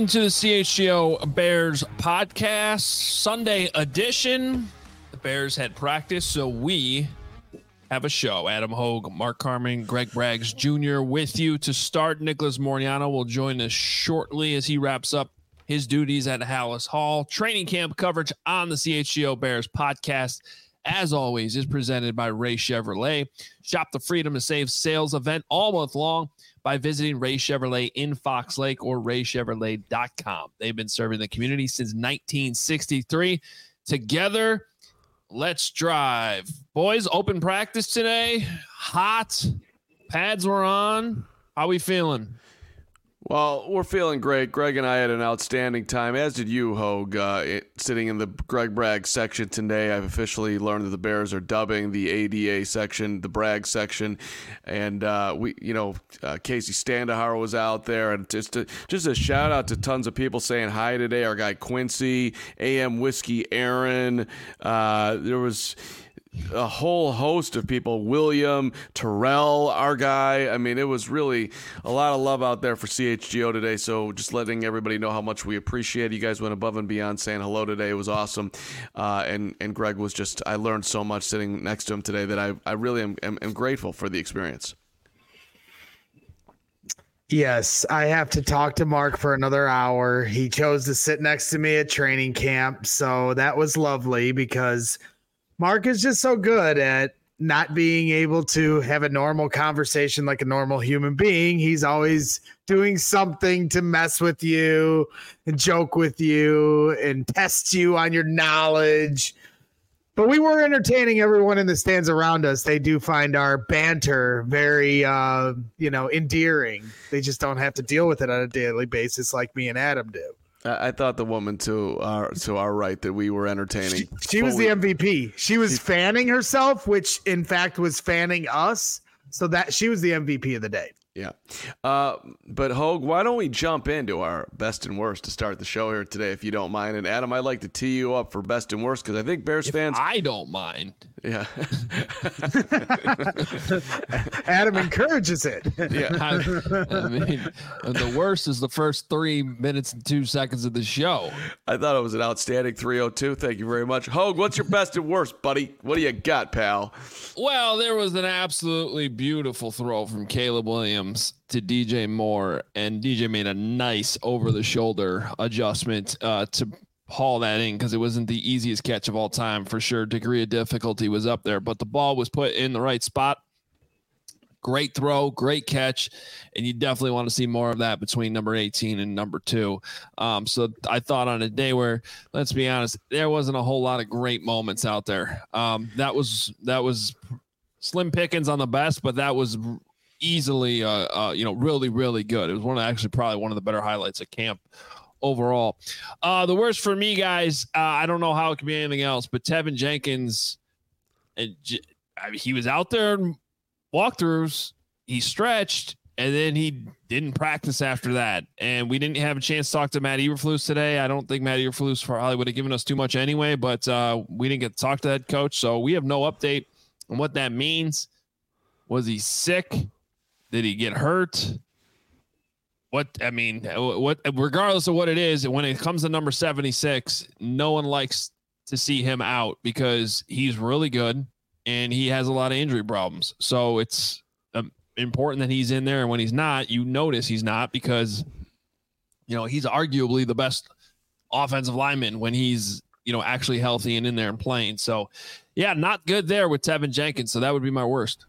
to the CHGO Bears podcast, Sunday edition. The Bears had practice, so we have a show. Adam Hogue, Mark Carman, Greg Braggs Jr. with you to start. Nicholas Moriano will join us shortly as he wraps up his duties at Hallis Hall. Training camp coverage on the CHGO Bears podcast, as always, is presented by Ray Chevrolet. Shop the Freedom to Save sales event all month long by visiting Ray Chevrolet in Fox Lake or raychevrolet.com. They've been serving the community since 1963. Together, let's drive. Boys, open practice today. Hot. Pads were on. How we feeling? Well, we're feeling great. Greg and I had an outstanding time, as did you, Hogue, sitting in the Greg Bragg section today. I've officially learned that the Bears are dubbing the ADA section the Bragg section, and Casey Standahar was out there, and just a shout out to tons of people saying hi today. Our guy Quincy, AM Whiskey Aaron, there was a whole host of people, William, Terrell, our guy. I mean, it was really a lot of love out there for CHGO today, so just letting everybody know how much we appreciate it. You guys went above and beyond saying hello today. It was awesome, and Greg was just, I learned so much sitting next to him today that I really am grateful for the experience. Yes, I have to talk to Mark for another hour. He chose to sit next to me at training camp, so that was lovely because Mark is just so good at not being able to have a normal conversation like a normal human being. He's always doing something to mess with you and joke with you and test you on your knowledge. But we were entertaining everyone in the stands around us. They do find our banter very, endearing. They just don't have to deal with it on a daily basis like me and Adam do. I thought the woman to our right that we were entertaining. She was the MVP. She was fanning herself, which in fact was fanning us. So that she was the MVP of the day. Yeah. But Hogue, why don't we jump into our best and worst to start the show here today, if you don't mind? And Adam, I'd like to tee you up for best and worst because I think Bears fans. I don't mind. Yeah. Adam encourages it. Yeah. I mean, the worst is the first 3 minutes and 2 seconds of the show. I thought it was an outstanding 302. Thank you very much. Hogue, what's your best and worst, buddy? What do you got, pal? Well, there was an absolutely beautiful throw from Caleb Williams to DJ Moore, and DJ made a nice over-the-shoulder adjustment to haul that in because it wasn't the easiest catch of all time for sure. Degree of difficulty was up there, but the ball was put in the right spot. Great throw, great catch, and you definitely want to see more of that between number 18 and number 2. So I thought on a day where, let's be honest, there wasn't a whole lot of great moments out there. That was slim pickings on the best, but that was easily, really, really good. It was probably one of the better highlights of camp overall. The worst for me, guys, I don't know how it could be anything else, but Tevin Jenkins, he was out there in walkthroughs, he stretched, and then he didn't practice after that. And we didn't have a chance to talk to Matt Eberflus today. I don't think Matt Eberflus probably would have given us too much anyway, but we didn't get to talk to that coach, so we have no update on what that means. Was he sick? Did he get hurt? Regardless of what it is, when it comes to number 76, no one likes to see him out because he's really good and he has a lot of injury problems. So it's important that he's in there. And when he's not, you notice he's not because, he's arguably the best offensive lineman when he's, actually healthy and in there and playing. So, yeah, not good there with Tevin Jenkins. So that would be my worst.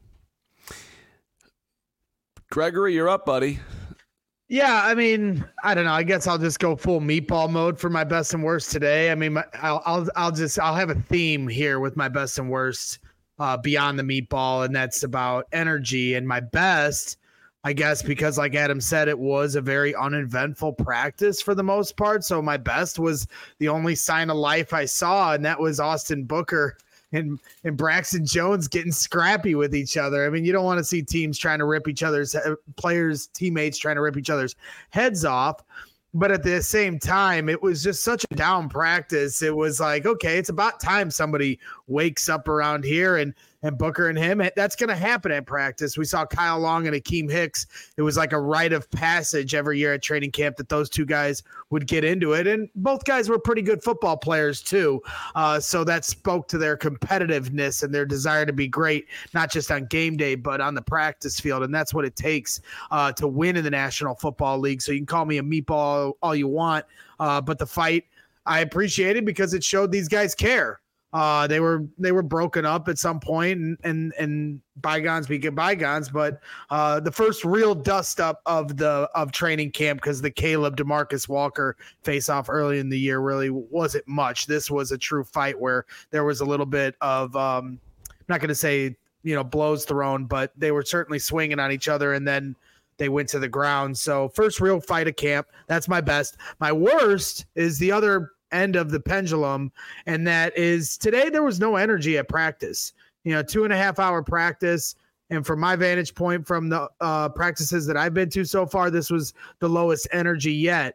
Gregory, you're up, buddy. Yeah, I mean, I don't know. I guess I'll just go full meatball mode for my best and worst today. I mean, I'll have a theme here with my best and worst beyond the meatball, and that's about energy. And my best, I guess, because like Adam said, it was a very uneventful practice for the most part. So my best was the only sign of life I saw, and that was Austin Booker and Braxton Jones getting scrappy with each other. I mean, you don't want to see teams trying to rip each other's teammates trying to rip each other's heads off. But at the same time, it was just such a down practice. It was like, okay, it's about time somebody wakes up around here. And and Booker and him. That's going to happen at practice. We saw Kyle Long and Akeem Hicks. It was like a rite of passage every year at training camp that those two guys would get into it. And both guys were pretty good football players too. So that spoke to their competitiveness and their desire to be great, not just on game day, but on the practice field. And that's what it takes to win in the National Football League. So you can call me a meatball all you want, but the fight I appreciated because it showed these guys care. They were broken up at some point, and bygones be bygones. But the first real dust up of training camp, because the Caleb DeMarcus Walker face off early in the year really wasn't much. This was a true fight where there was a little bit of I'm not going to say blows thrown, but they were certainly swinging on each other, and then they went to the ground. So first real fight of camp. That's my best. My worst is the other end of the pendulum, and that is today there was no energy at practice. 2.5 hour practice, and from my vantage point from the practices that I've been to so far, this was the lowest energy yet.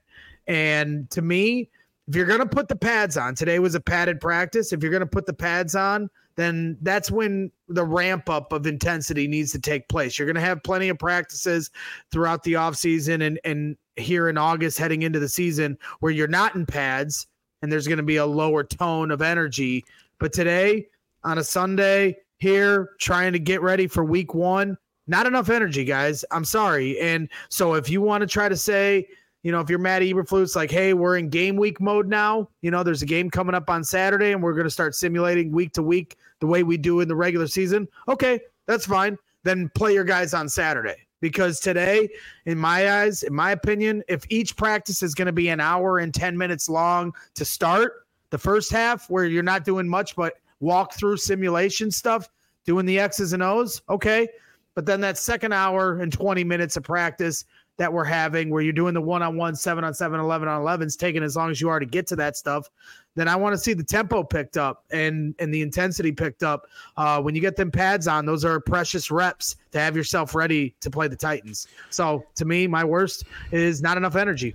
And to me, if you're going to put the pads on, today was a padded practice. If you're going to put the pads on, then that's when the ramp up of intensity needs to take place. You're going to have plenty of practices throughout the offseason and here in August heading into the season where you're not in pads, and there's going to be a lower tone of energy. But today, on a Sunday, here, trying to get ready for week 1, not enough energy, guys. I'm sorry. And so if you want to try to say, if you're Matt Eberflus, like, hey, we're in game week mode now, there's a game coming up on Saturday, and we're going to start simulating week to week the way we do in the regular season. Okay, that's fine. Then play your guys on Saturday. Because today, in my eyes, in my opinion, if each practice is going to be an hour and 10 minutes long to start the first half, where you're not doing much but walk through simulation stuff, doing the X's and O's, okay. But then that second hour and 20 minutes of practice that we're having, where you're doing the 1-on-1, 7-on-7, 11-on-11s, taking as long as you are to get to that stuff, then I want to see the tempo picked up and the intensity picked up. When you get them pads on, those are precious reps to have yourself ready to play the Titans. So to me, my worst is not enough energy.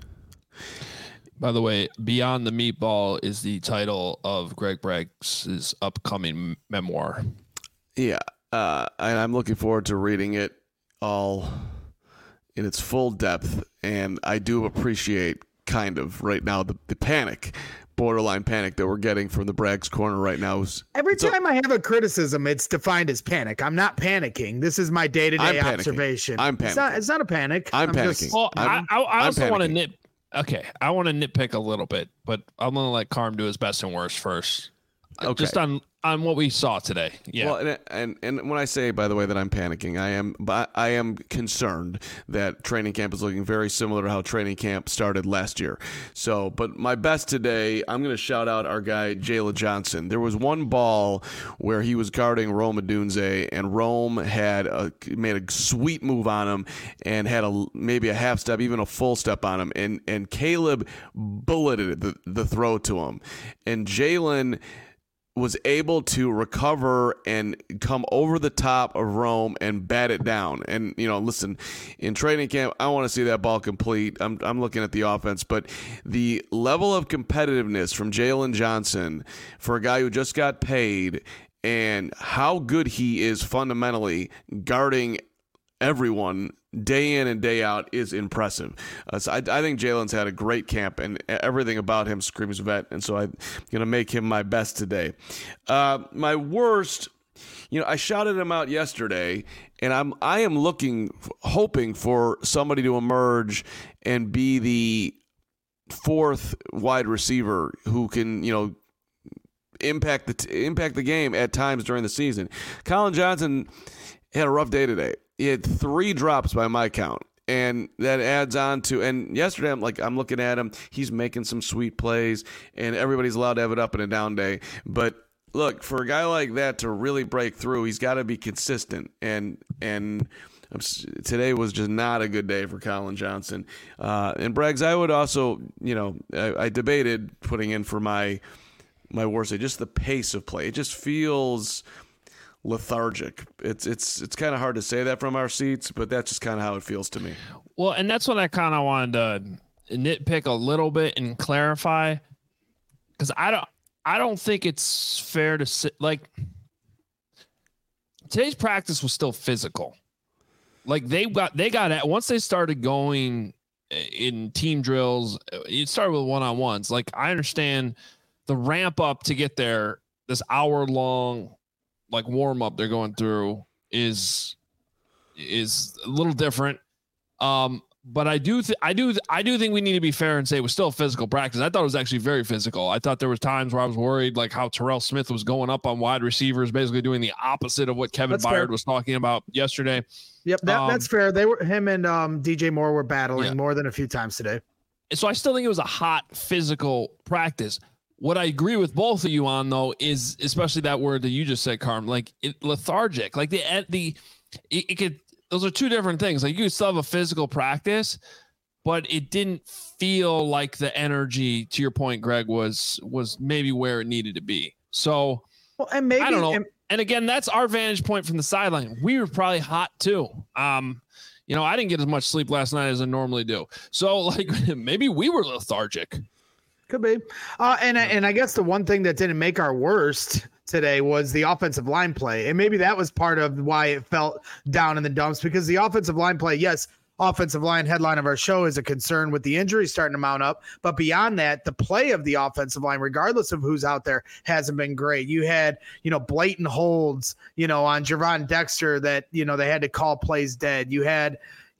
By the way, Beyond the Meatball is the title of Greg Bragg's upcoming memoir. Yeah, and I'm looking forward to reading it all in its full depth, and I do appreciate kind of right now the panic, borderline panic that we're getting from the Bragg's Corner right now. Every time I have a criticism, it's defined as panic. I'm not panicking. This is my day-to-day observation. I'm panicking. It's not a panic. I'm panicking. I also want to I want to nitpick a little bit, but I'm going to let Carm do his best and worst first. Okay. Just on what we saw today. Yeah. Well, and when I say, by the way, that I'm panicking, I am concerned that training camp is looking very similar to how training camp started last year. So, but my best today, I'm going to shout out our guy, Jalen Johnson. There was one ball where he was guarding Rome Odunze, and Rome had made a sweet move on him and had maybe a half step, even a full step on him. And Caleb bulleted the throw to him. And Jalen was able to recover and come over the top of Rome and bat it down. And, listen, in training camp, I want to see that ball complete. I'm looking at the offense, but the level of competitiveness from Jalen Johnson for a guy who just got paid and how good he is fundamentally guarding everyone day in and day out is impressive. So I think Jalen's had a great camp, and everything about him screams vet, and so I'm going to make him my best today. My worst, I shouted him out yesterday, and I am hoping for somebody to emerge and be the fourth wide receiver who can, impact the game at times during the season. Colin Johnson had a rough day today. He had 3 drops by my count, and that adds on to. And yesterday, I'm looking at him. He's making some sweet plays, and everybody's allowed to have it up and a down day. But look, for a guy like that to really break through, he's got to be consistent. And today was just not a good day for Colin Johnson. And Braggs, I would also, I debated putting in for my worst day, just the pace of play. It just feels lethargic. It's kind of hard to say that from our seats, but that's just kind of how it feels to me. Well, and that's what I kind of wanted to nitpick a little bit and clarify, because I don't think it's fair to say, like, today's practice was still physical. Like they got at once they started going in team drills. It started with one-on-ones. Like I understand the ramp up to get there. This hour long like warm up they're going through is a little different. But I do think we need to be fair and say it was still a physical practice. I thought it was actually very physical. I thought there was times where I was worried, like how Terrell Smith was going up on wide receivers, basically doing the opposite of what Kevin Byard was talking about yesterday. Yep, that's fair. Him and DJ Moore were battling more than a few times today. So I still think it was a hot physical practice. What I agree with both of you on though is especially that word that you just said, Carm, like lethargic. Like it could. Those are two different things. Like you could still have a physical practice, but it didn't feel like the energy, to your point, Greg, was maybe where it needed to be. So and maybe I don't know. And again, that's our vantage point from the sideline. We were probably hot too. I didn't get as much sleep last night as I normally do. So like maybe we were lethargic. Could be. And I guess the one thing that didn't make our worst today was the offensive line play. And maybe that was part of why it felt down in the dumps, because the offensive line play, yes, offensive line headline of our show is a concern with the injuries starting to mount up. But beyond that, the play of the offensive line, regardless of who's out there, hasn't been great. You had, blatant holds, on Javon Dexter that, they had to call plays dead. You had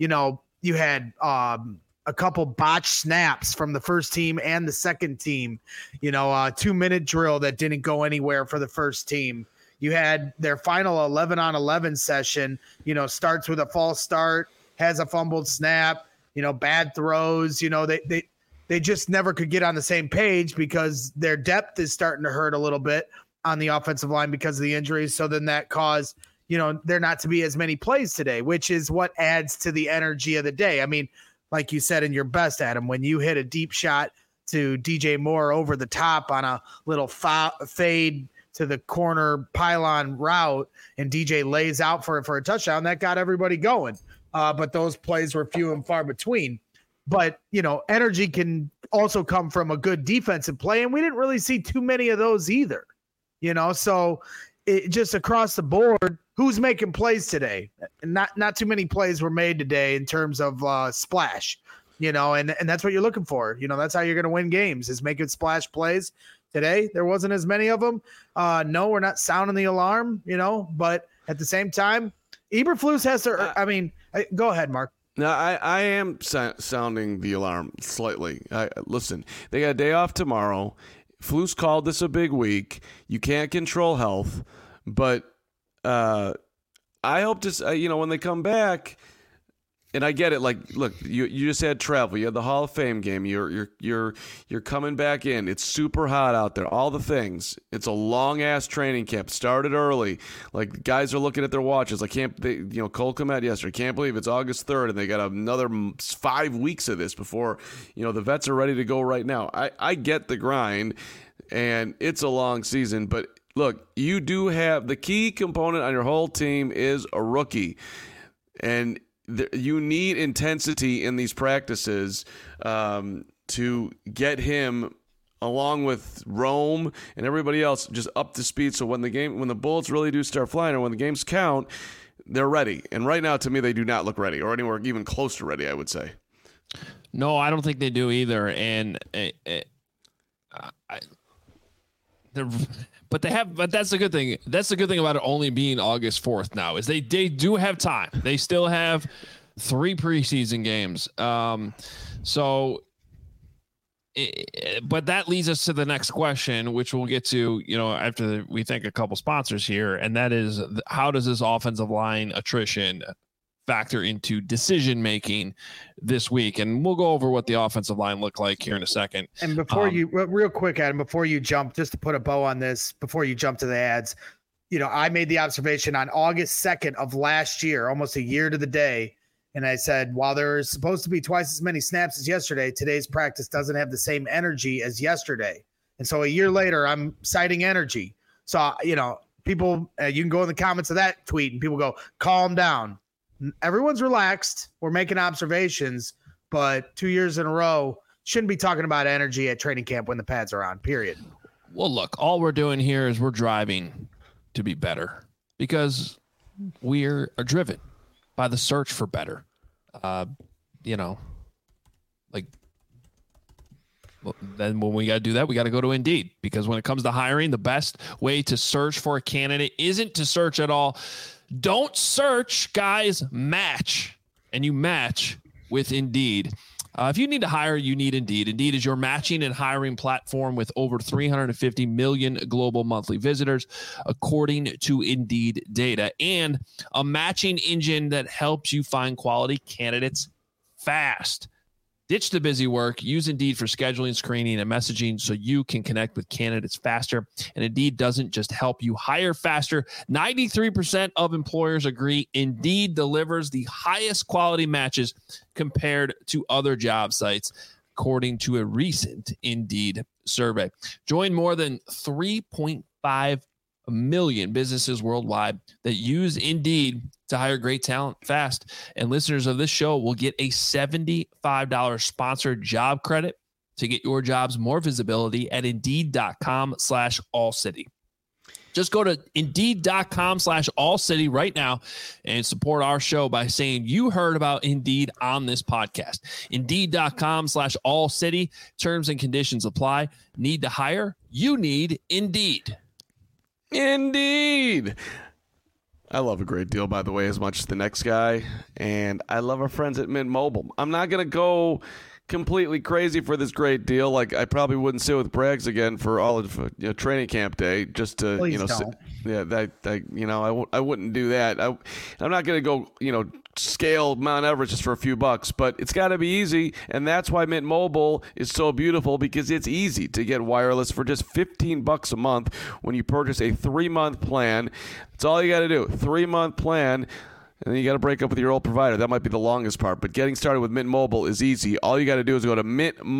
a couple botched snaps from the first team and the second team, a 2-minute drill that didn't go anywhere for the first team. You had their final 11-on-11 session, starts with a false start, has a fumbled snap, bad throws, they just never could get on the same page because their depth is starting to hurt a little bit on the offensive line because of the injuries. So then that caused, there not to be as many plays today, which is what adds to the energy of the day. I mean, like you said in your best, Adam, when you hit a deep shot to DJ Moore over the top on a little fade to the corner pylon route and DJ lays out for a touchdown, that got everybody going. But those plays were few and far between. But, energy can also come from a good defensive play, and we didn't really see too many of those either. So it just across the board, who's making plays today? Not too many plays were made today in terms of splash, and that's what you're looking for. That's how you're going to win games, is making splash plays. Today, there wasn't as many of them. No, we're not sounding the alarm, but at the same time, Eberflus has to, go ahead, Mark. No, I am sounding the alarm slightly. Listen, they got a day off tomorrow. Flus called this a big week. You can't control health, but I hope to, when they come back, and I get it. Like, look, you just had travel. You had the Hall of Fame game. You're coming back in. It's super hot out there. All the things. It's a long ass training camp. Started early. Like, guys are looking at their watches. Cole Kmet yesterday. Can't believe it's August 3rd and they got another 5 weeks of this before, the vets are ready to go right now. I get the grind, and it's a long season, but look, you do have the key component on your whole team is a rookie, and you need intensity in these practices to get him, along with Rome and everybody else, just up to speed. So when the bullets really do start flying, or when the games count, they're ready. And right now, to me, they do not look ready, or anywhere even close to ready, I would say. No, I don't think they do either. And but that's the good thing. That's the good thing about it only being August 4th now, is they do have time. They still have 3 preseason games. But that leads us to the next question, which we'll get to, after we thank a couple sponsors here. And that is, how does this offensive line attrition factor into decision making this week? And we'll go over what the offensive line looked like here in a second. And before real quick, Adam, before you jump, just to put a bow on this, before you jump to the ads, I made the observation on August 2nd of last year, almost a year to the day. And I said, while there's supposed to be twice as many snaps as yesterday, today's practice doesn't have the same energy as yesterday. And so a year later, I'm citing energy. So, people, you can go in the comments of that tweet and people go, calm down. Everyone's relaxed. We're making observations, but 2 years in a row, shouldn't be talking about energy at training camp when the pads are on, period. Well, look, all we're doing here is we're driving to be better, because we are driven by the search for better. Then when we got to do that, we got to go to Indeed, because when it comes to hiring, the best way to search for a candidate isn't to search at all. Don't search, guys, match. And you match with Indeed. If you need to hire, you need Indeed. Indeed is your matching and hiring platform with over 350 million global monthly visitors, according to Indeed data, and a matching engine that helps you find quality candidates fast. Ditch the busy work. Use Indeed for scheduling, screening, and messaging so you can connect with candidates faster. And Indeed doesn't just help you hire faster. 93% of employers agree Indeed delivers the highest quality matches compared to other job sites, according to a recent Indeed survey. Join more than 3.5 million businesses worldwide that use Indeed to hire great talent fast. And listeners of this show will get a $75 sponsored job credit to get your jobs more visibility at Indeed.com/AllCity. Just go to Indeed.com/AllCity right now and support our show by saying you heard about Indeed on this podcast. Indeed.com/AllCity. Terms and conditions apply. Need to hire? You need Indeed. Indeed. I love a great deal, by the way, as much as the next guy. And I love our friends at Mint Mobile. I'm not going to go completely crazy for this great deal. Like, I probably wouldn't sit with Braggs again for all of training camp day just to, Please don't. I wouldn't do that. I'm not going to go, scale Mount Everest just for a few bucks, but it's got to be easy. And that's why Mint Mobile is so beautiful, because it's easy to get wireless for just $15 a month when you purchase a 3-month plan. That's all you got to do. 3-month plan. And then you got to break up with your old provider. That might be the longest part. But getting started with Mint Mobile is easy. All you got to do is go to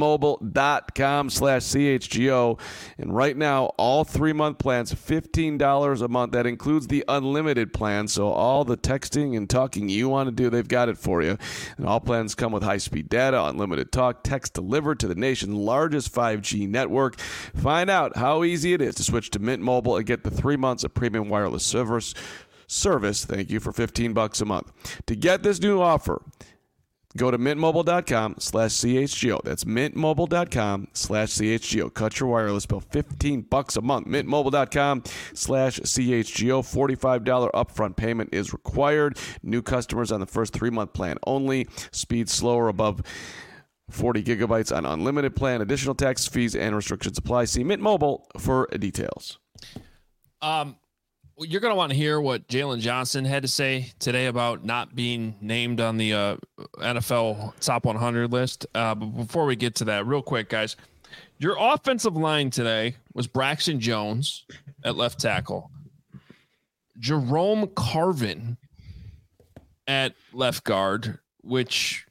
mintmobile.com/CHGO. And right now, all 3-month plans, $15 a month. That includes the unlimited plan. So all the texting and talking you want to do, they've got it for you. And all plans come with high-speed data, unlimited talk, text delivered to the nation's largest 5G network. Find out how easy it is to switch to Mint Mobile and get the 3 months of premium wireless service, thank you, for $15 a month. To get this new offer, go to mintmobile.com/CHGO. That's mintmobile.com/CHGO. Cut your wireless bill, $15 a month. Mintmobile.com/CHGO. $45 upfront payment is required. New customers on the first 3-month plan only. Speed slower above 40 gigabytes on unlimited plan. Additional tax, fees, and restrictions apply. See Mint Mobile for details. You're going to want to hear what Jalen Johnson had to say today about not being named on the NFL top 100 list. But before we get to that, real quick, guys, your offensive line today was Braxton Jones at left tackle, Jerome Carvin at left guard, which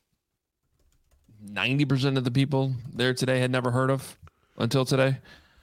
90% of the people there today had never heard of until today.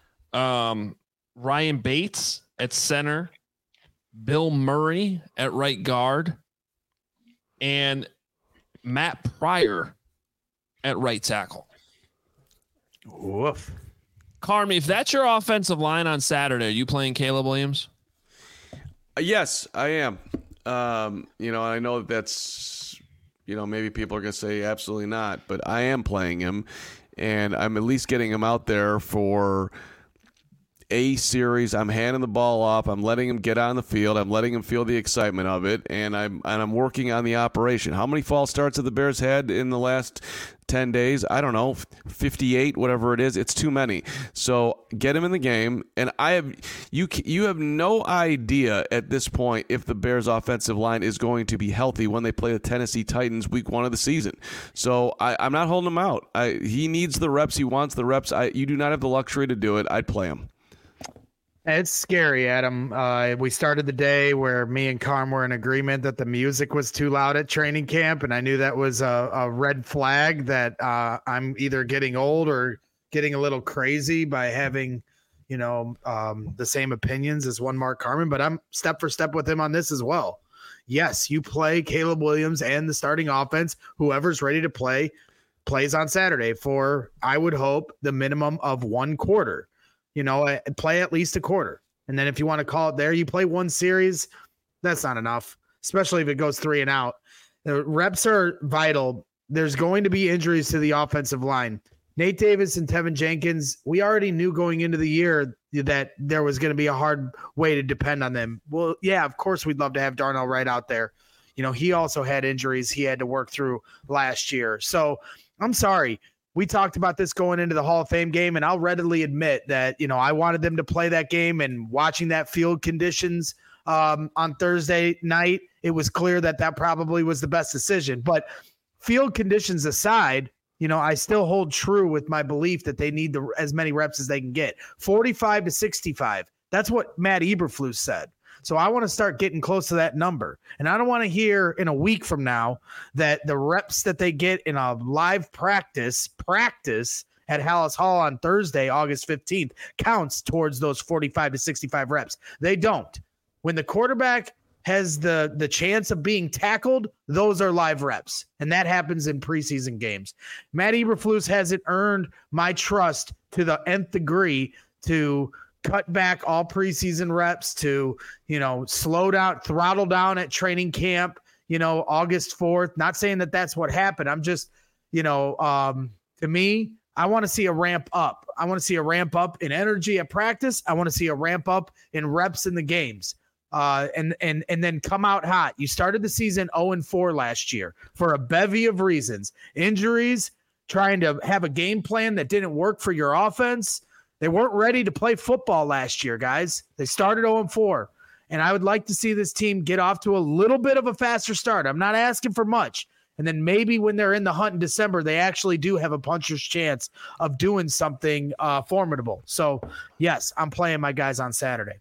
Ryan Bates at center, Bill Murray at right guard, and Matt Pryor at right tackle. Woof. Carmi, if that's your offensive line on Saturday, are you playing Caleb Williams? Yes, I am. I know that's, maybe people are going to say absolutely not, but I am playing him, and I'm at least getting him out there for a series. I'm handing the ball off. I'm letting him get on the field. I'm letting him feel the excitement of it, and I'm working on the operation. How many false starts have the Bears had in the last 10 days? I don't know, 58, whatever it is. It's too many. So get him in the game, and you have no idea at this point if the Bears' offensive line is going to be healthy when they play the Tennessee Titans week 1 of the season. So I'm not holding him out. He needs the reps. He wants the reps. You do not have the luxury to do it. I'd play him. It's scary, Adam. We started the day where me and Carm were in agreement that the music was too loud at training camp, and I knew that was a red flag that I'm either getting old or getting a little crazy by having, the same opinions as one Mark Carman, but I'm step for step with him on this as well. Yes, you play Caleb Williams and the starting offense. Whoever's ready to play plays on Saturday for, I would hope, the minimum of 1 quarter. Play at least a quarter. And then if you want to call it there, you play 1 series. That's not enough, especially if it goes 3 and out. The reps are vital. There's going to be injuries to the offensive line. Nate Davis and Tevin Jenkins, we already knew going into the year that there was going to be a hard way to depend on them. Well, yeah, of course we'd love to have Darnell Wright out there. He also had injuries he had to work through last year. So I'm sorry. We talked about this going into the Hall of Fame game, and I'll readily admit that, I wanted them to play that game, and watching that field conditions on Thursday night, it was clear that probably was the best decision. But field conditions aside, I still hold true with my belief that they need as many reps as they can get. 45 to 65. That's what Matt Eberflus said. So I want to start getting close to that number. And I don't want to hear in a week from now that the reps that they get in a live practice at Hallis Hall on Thursday, August 15th, counts towards those 45 to 65 reps. They don't. When the quarterback has the chance of being tackled, those are live reps. And that happens in preseason games. Matt Eberflus hasn't earned my trust to the nth degree to cut back all preseason reps, to, slow down, throttle down at training camp, August 4th. Not saying that that's what happened. I'm just, to me, I want to see a ramp up. I want to see a ramp up in energy at practice. I want to see a ramp up in reps in the games. And then come out hot. You started the season 0-4 last year for a bevy of reasons. Injuries, trying to have a game plan that didn't work for your offense. They weren't ready to play football last year, guys. They started 0-4. And I would like to see this team get off to a little bit of a faster start. I'm not asking for much. And then maybe when they're in the hunt in December, they actually do have a puncher's chance of doing something formidable. So, yes, I'm playing my guys on Saturday.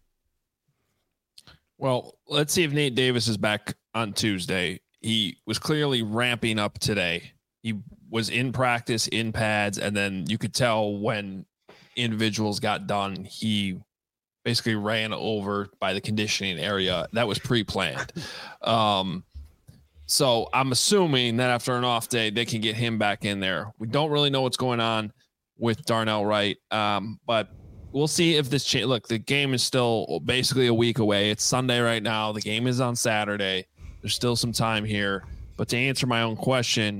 Well, let's see if Nate Davis is back on Tuesday. He was clearly ramping up today. He was in practice, in pads, and then you could tell when individuals got done, he basically ran over by the conditioning area. That was pre-planned. So I'm assuming that after an off day, they can get him back in there. We don't really know what's going on with Darnell Wright, but we'll see if this change. Look, the game is still basically a week away. It's Sunday right now. The game is on Saturday. There's still some time here. But to answer my own question,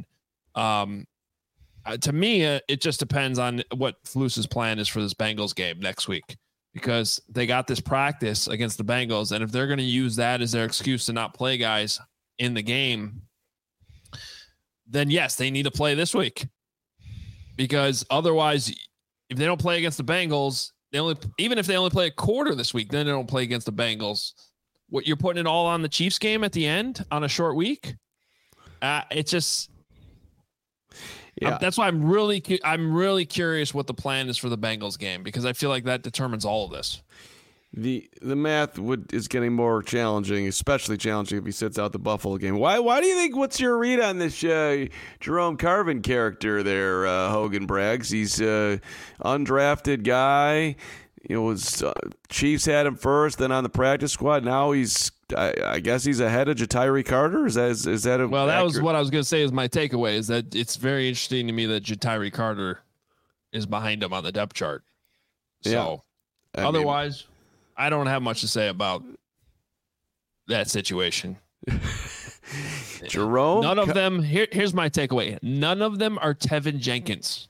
to me, it just depends on what Flus's plan is for this Bengals game next week, because they got this practice against the Bengals, and if they're going to use that as their excuse to not play guys in the game, then yes, they need to play this week, because otherwise, if they don't play against the Bengals, even if they only play a quarter this week, then they don't play against the Bengals. What, you're putting it all on the Chiefs game at the end on a short week? It's just, yeah. That's why I'm really curious what the plan is for the Bengals game, because I feel like that determines all of this. The math is getting more challenging, especially challenging if he sits out the Buffalo game. Why do you think? What's your read on this Jerome Carvin character there, Hogan Braggs? He's a undrafted guy. Chiefs had him first, then on the practice squad. Now I guess he's ahead of Ja'Tyre Carter. Is that well? That was what I was going to say. Is my takeaway is that it's very interesting to me that Ja'Tyre Carter is behind him on the depth chart. So yeah. Otherwise, I don't have much to say about that situation. Jerome, none of them. Here's my takeaway. None of them are Tevin Jenkins.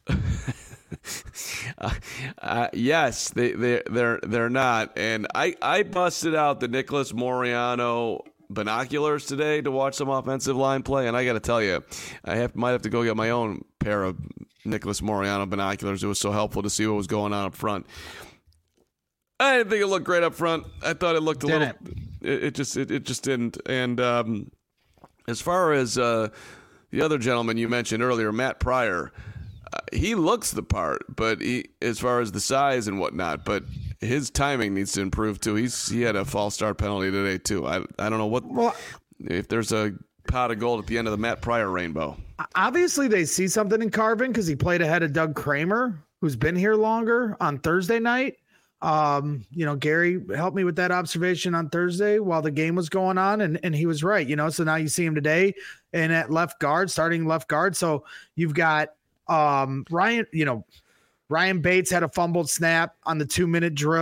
Yes, they're not. And I busted out the Nicholas Moreano binoculars today to watch some offensive line play, and I got to tell you, might have to go get my own pair of Nicholas Moreano binoculars. It was so helpful to see what was going on up front. I didn't think it looked great up front. I thought it looked a little. It just didn't. And as far as the other gentleman you mentioned earlier, Matt Pryor, he looks the part, but as far as the size and whatnot, but his timing needs to improve too. He had a false start penalty today too. I don't know if there's a pot of gold at the end of the Matt Pryor rainbow. Obviously, they see something in Carvin because he played ahead of Doug Kramer, who's been here longer on Thursday night. Gary helped me with that observation on Thursday while the game was going on, and he was right. So now you see him today and at starting left guard. So you've got Ryan Bates had a fumbled snap on the 2-minute drill.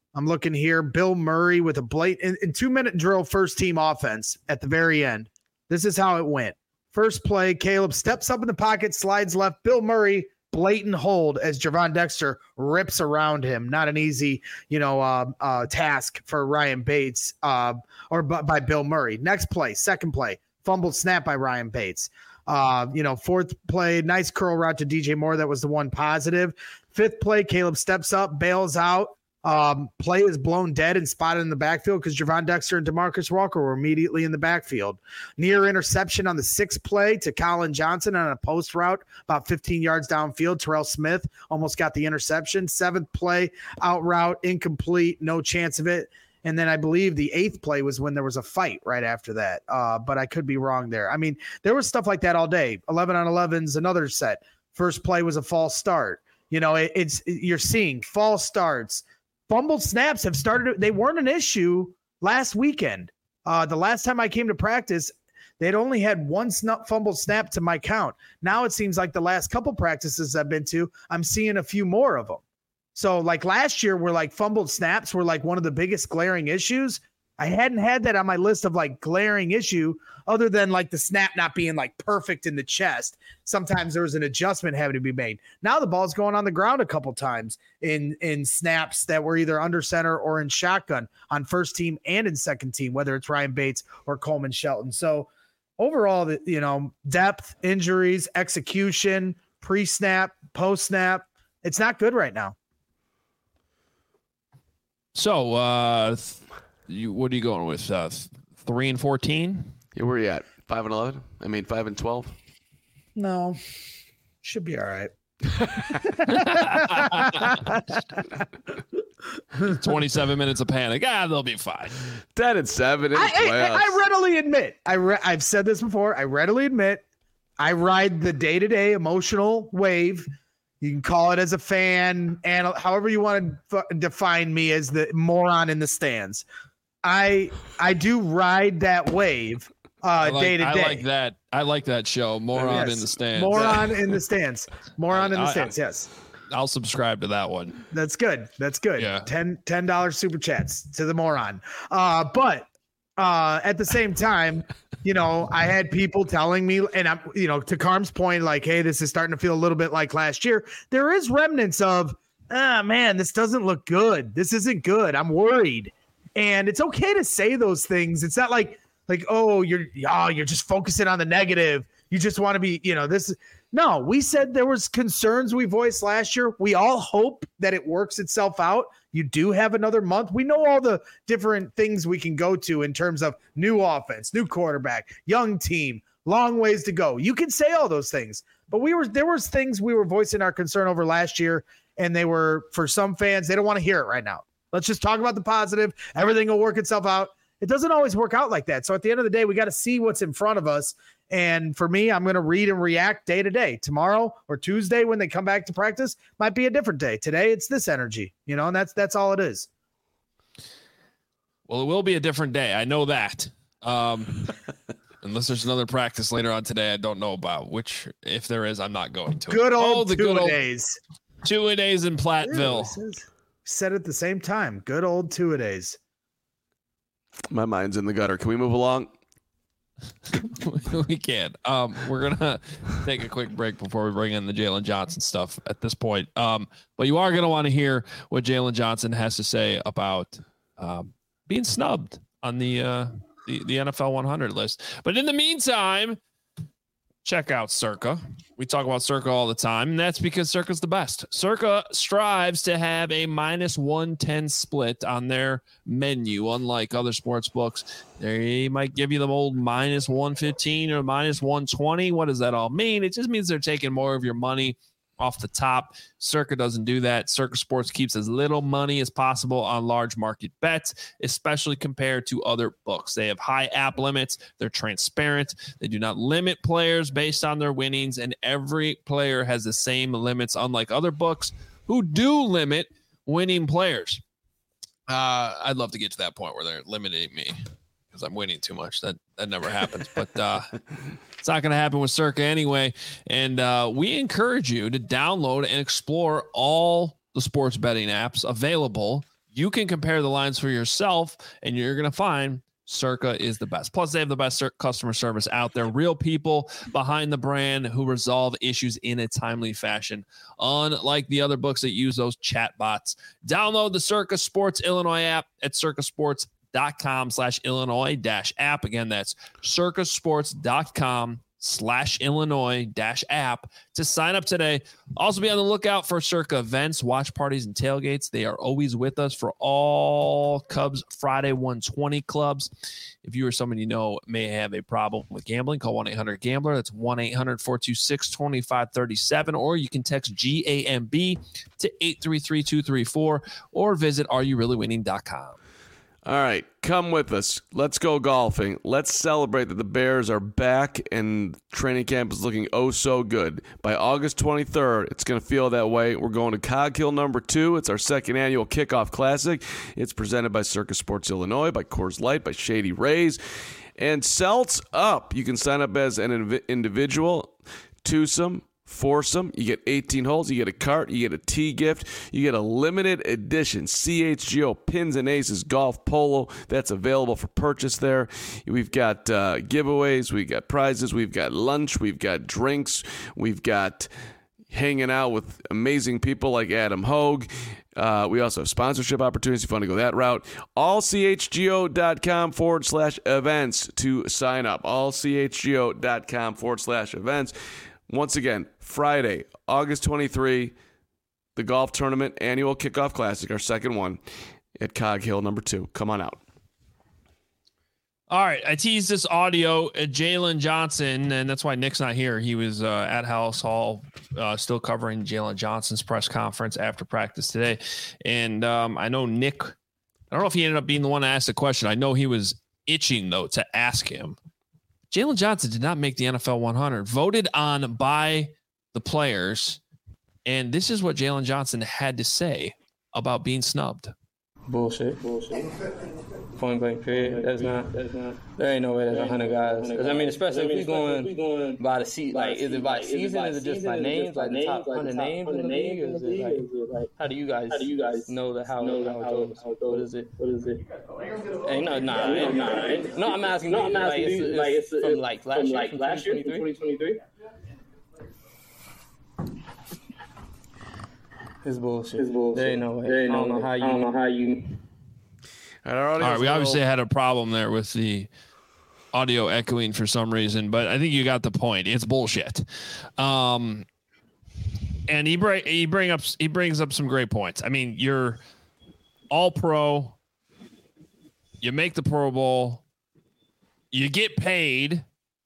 I'm looking here. Bill Murray with a blatant in 2-minute drill, first team offense at the very end. This is how it went. First play, Caleb steps up in the pocket, slides left. Bill Murray, blatant hold as Javon Dexter rips around him. Not an easy, task for Ryan Bates or by Bill Murray. Next play, second play, fumbled snap by Ryan Bates. Fourth play, nice curl route to DJ Moore. That was the one positive. Fifth play, Caleb steps up, bails out. Play is blown dead and spotted in the backfield because Javon Dexter and DeMarcus Walker were immediately in the backfield. Near interception on the sixth play to Colin Johnson on a post route about 15 yards downfield. Terrell Smith almost got the interception. Seventh play, out route, incomplete, no chance of it. And then I believe the eighth play was when there was a fight right after that. But I could be wrong there. I mean, there was stuff like that all day. 11 on 11's another set. First play was a false start. You're seeing false starts. Fumbled snaps have started. They weren't an issue last weekend. The last time I came to practice, they'd only had one fumbled snap to my count. Now it seems like the last couple practices I've been to, I'm seeing a few more of them. So like last year where like fumbled snaps were like one of the biggest glaring issues. I hadn't had that on my list of like glaring issue other than like the snap not being like perfect in the chest. Sometimes there was an adjustment having to be made. Now the ball's going on the ground a couple times in snaps that were either under center or in shotgun on first team and in second team, whether it's Ryan Bates or Coleman Shelton. So overall, depth, injuries, execution, pre-snap, post-snap, it's not good right now. So, what are you going with? 3 and 14? Yeah, where are you at? 5 and 11? 5 and 12? No, should be all right. 27 minutes of panic. They'll be fine. 10 and 7. I readily admit, I've said this before. I readily admit, I ride the day-to-day emotional wave. You can call it as a fan, and however you want to define me as the moron in the stands. I do ride that wave day to day. I like that show. Moron in the stands. Moron in the stands. Moron in the stands. Yes. I'll subscribe to that one. That's good. Yeah. $10 super chats to the moron. But at the same time, I had people telling me, and I'm, to Carm's point, like, hey, this is starting to feel a little bit like last year. There is remnants of, man, this doesn't look good. This isn't good. I'm worried. And it's okay to say those things. It's not like, you're just focusing on the negative. You just want to be, No, we said there was concerns we voiced last year. We all hope that it works itself out. You do have another month. We know all the different things we can go to in terms of new offense, new quarterback, young team, long ways to go. You can say all those things, but there was things we were voicing our concern over last year, and they were, for some fans, they don't want to hear it right now. Let's just talk about the positive. Everything will work itself out. It doesn't always work out like that. So at the end of the day, we got to see what's in front of us. And for me, I'm going to read and react day to day. Tomorrow or Tuesday when they come back to practice might be a different day. Today, it's this energy, and that's all it is. Well, it will be a different day. I know that. Unless there's another practice later on today I don't know about, which if there is, I'm not going to. Good old two-a-days. Two-a-days in Platteville. Said at the same time. Good old two-a-days. My mind's in the gutter. Can we move along? We can. We're gonna take a quick break before we bring in the Jalen Johnson stuff at this point. But you are gonna want to hear what Jalen Johnson has to say about being snubbed on the NFL 100 list. But in the meantime, check out Circa. We talk about Circa all the time, and that's because Circa's the best. Circa strives to have a -110 split on their menu, unlike other sports books. They might give you the old -115 or -120. What does that all mean? It just means they're taking more of your money off the top. Circa doesn't do that. Circa Sports keeps as little money as possible on large market bets, especially compared to other books. They have high app limits. They're transparent. They do not limit players based on their winnings, and every player has the same limits, unlike other books who do limit winning players. I'd love to get to that point where they're limiting me because I'm winning too much. That never happens, but it's not going to happen with Circa anyway. And we encourage you to download and explore all the sports betting apps available You can compare the lines for yourself, and you're going to find Circa is the best. Plus, they have the best customer service out there. Real people behind the brand who resolve issues in a timely fashion. Unlike the other books that use those chat bots. Download the Circa Sports Illinois app at circasports.com/Illinois-app. Again, that's circasports.com/Illinois-app to sign up today. Also be on the lookout for Circa events, watch parties, and tailgates. They are always with us for all Cubs Friday 120 clubs. If you or someone you know may have a problem with gambling, call 1-800-GAMBLER. That's 1-800-426-2537. Or you can text GAMB to 833-234 or visit areyourreallywinning.com. All right, come with us. Let's go golfing. Let's celebrate that the Bears are back and training camp is looking oh so good. By August 23rd, it's going to feel that way. We're going to Cog Hill #2. It's our second annual kickoff classic. It's presented by Circa Sports Illinois, by Coors Light, by Shady Rays, and Celts Up. You can sign up as an individual, twosome, foursome. You get 18 holes, you get a cart, you get a tee gift, you get a limited edition CHGO Pins and Aces golf polo that's available for purchase there. We've got giveaways, we've got prizes, we've got lunch, we've got drinks, we've got hanging out with amazing people like Adam Hogue. We also have sponsorship opportunities if you want to go that route. allchgo.com/events to sign up. allchgo.com/events. Once again, Friday, August 23, the golf tournament annual kickoff classic, our second one at Cog Hill #2. Come on out. All right, I teased this audio at Jalen Johnson, and that's why Nick's not here. He was at House Hall still covering Jalen Johnson's press conference after practice today. And I know Nick, I don't know if he ended up being the one to ask the question. I know he was itching, though, to ask him. Jalen Johnson did not make the NFL 100, voted on by the players. And this is what Jalen Johnson had to say about being snubbed. Bullshit. Point blank period. There ain't no way there's 100 guys. 'Cause, I mean, especially if we're going by the seat, like, is it by season? Is it just by names? Like the top 100 names in the league? Is it like, how do you guys know how it goes? What is it? Ain't no, I'm asking you, it's from like last year, 2023? It's bullshit. There ain't no way. I don't know how you. All right, we obviously had a problem there with the audio echoing for some reason, but I think you got the point. It's bullshit. And he brings up some great points. I mean, you're all pro, you make the Pro Bowl, you get paid.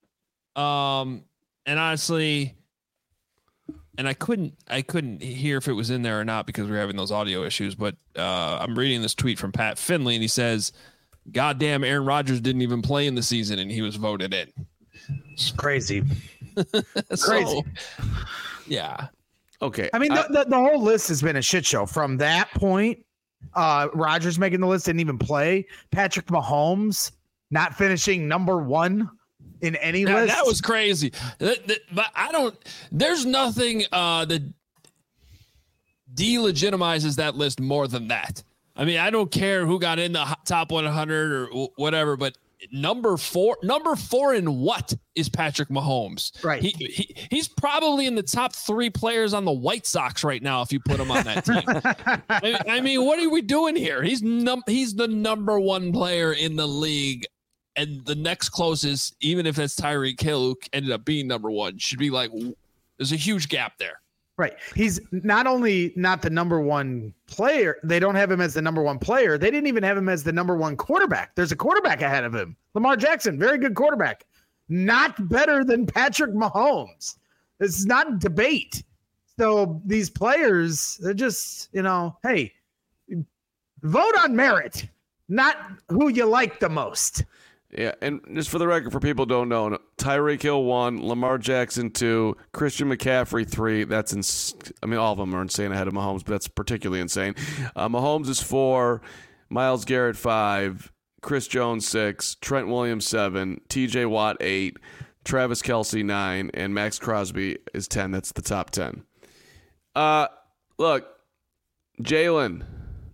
And honestly, and I couldn't hear if it was in there or not because we were having those audio issues, but I'm reading this tweet from Pat Finley, and he says, goddamn, Aaron Rodgers didn't even play in the season, and he was voted in. It's crazy. Crazy. Yeah. Okay. I mean, the whole list has been a shit show. From that point, Rodgers making the list, didn't even play. Patrick Mahomes not finishing #1 in any list. That was crazy. But there's nothing that delegitimizes that list more than that. I mean, I don't care who got in the top 100 or whatever, but number four in what is Patrick Mahomes? Right. He's probably in the top 3 players on the White Sox right now if you put him on that team. I mean, what are we doing here? He's the #1 player in the league. And the next closest, even if it's Tyreek Hill, who ended up being #1, should be like, there's a huge gap there. Right. He's not only not the #1 player, they don't have him as the #1 player. They didn't even have him as the #1 quarterback. There's a quarterback ahead of him. Lamar Jackson, very good quarterback. Not better than Patrick Mahomes. This is not debate. So these players, they're just, hey, vote on merit, not who you like the most. Yeah, and just for the record, for people who don't know, Tyreek Hill 1, Lamar Jackson 2, Christian McCaffrey 3. That's all of them are insane ahead of Mahomes, but that's particularly insane. Mahomes is 4, Myles Garrett 5, Chris Jones 6, Trent Williams 7, TJ Watt 8, Travis Kelce 9, and Max Crosby is 10. That's the top 10. Look, Jalen,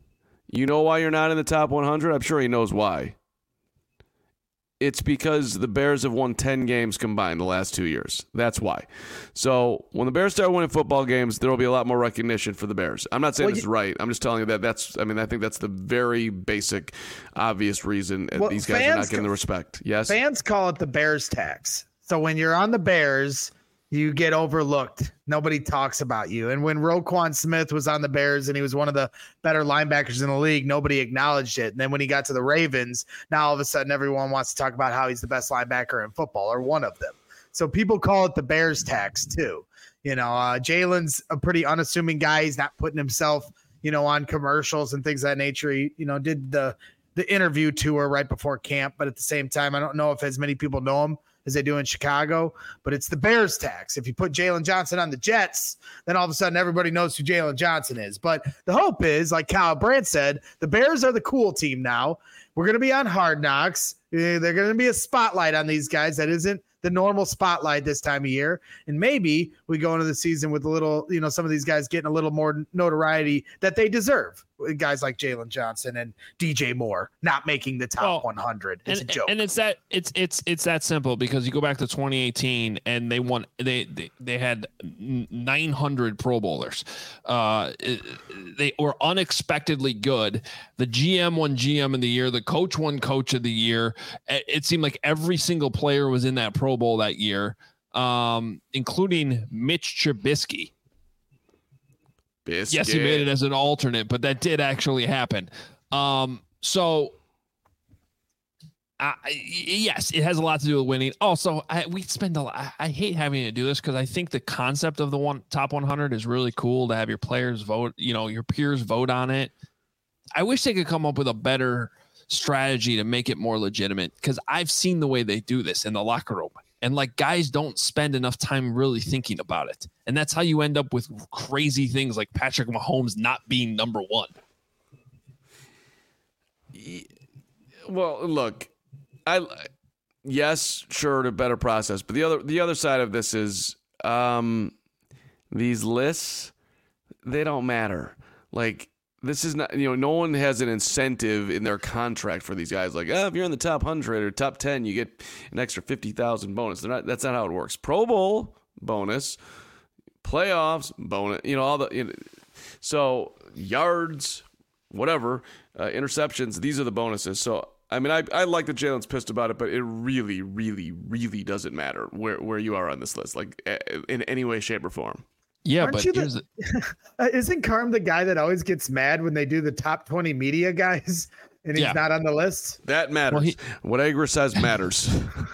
You know why you're not in the top 100? I'm sure he knows why. It's because the Bears have won 10 games combined the last 2 years. That's why. So when the Bears start winning football games, there will be a lot more recognition for the Bears. I'm not saying this is right. I'm just telling you that I think that's the very basic, obvious reason these guys are not getting the respect. Yes? Fans call it the Bears tax. So when you're on the Bears, you get overlooked. Nobody talks about you. And when Roquan Smith was on the Bears and he was one of the better linebackers in the league, nobody acknowledged it. And then when he got to the Ravens, now all of a sudden everyone wants to talk about how he's the best linebacker in football or one of them. So people call it the Bears tax too. Jalen's a pretty unassuming guy. He's not putting himself, on commercials and things of that nature. He, did the interview tour right before camp, but at the same time, I don't know if as many people know him as they do in Chicago, but it's the Bears tax. If you put Jalen Johnson on the Jets, then all of a sudden everybody knows who Jalen Johnson is. But the hope is, like Kyle Brandt said, the Bears are the cool team now. We're going to be on Hard Knocks. They're going to be a spotlight on these guys that isn't the normal spotlight this time of year. And maybe we go into the season with a little, some of these guys getting a little more notoriety that they deserve. Guys like Jalen Johnson and DJ Moore not making the top 100. It's a joke. And it's that simple, because you go back to 2018 and they won. They had 900 Pro Bowlers. They were unexpectedly good. The GM won GM of the year. The coach won Coach of the year. It seemed like every single player was in that Pro Bowl that year, including Mitch Trubisky. Yes, he made it as an alternate, but that did actually happen. Yes, it has a lot to do with winning. Also, we spend a lot. I hate having to do this because I think the concept of the top 100 is really cool to have your players vote, your peers vote on it. I wish they could come up with a better strategy to make it more legitimate, because I've seen the way they do this in the locker room. And guys don't spend enough time really thinking about it. And that's how you end up with crazy things like Patrick Mahomes not being number one. Well, look, yes, sure, a better process. But the other side of this is these lists, they don't matter. This is not, no one has an incentive in their contract for these guys. If you're in the top 100 or top 10, you get an extra 50,000 bonus. That's not how it works. Pro Bowl bonus, playoffs bonus, so yards, whatever, interceptions, these are the bonuses. So, I like that Jalen's pissed about it, but it really, really, really doesn't matter where you are on this list, in any way, shape, or form. Yeah, Aren't but isn't Carm the guy that always gets mad when they do the top 20 media guys and he's not on the list? That matters. What Agra says matters.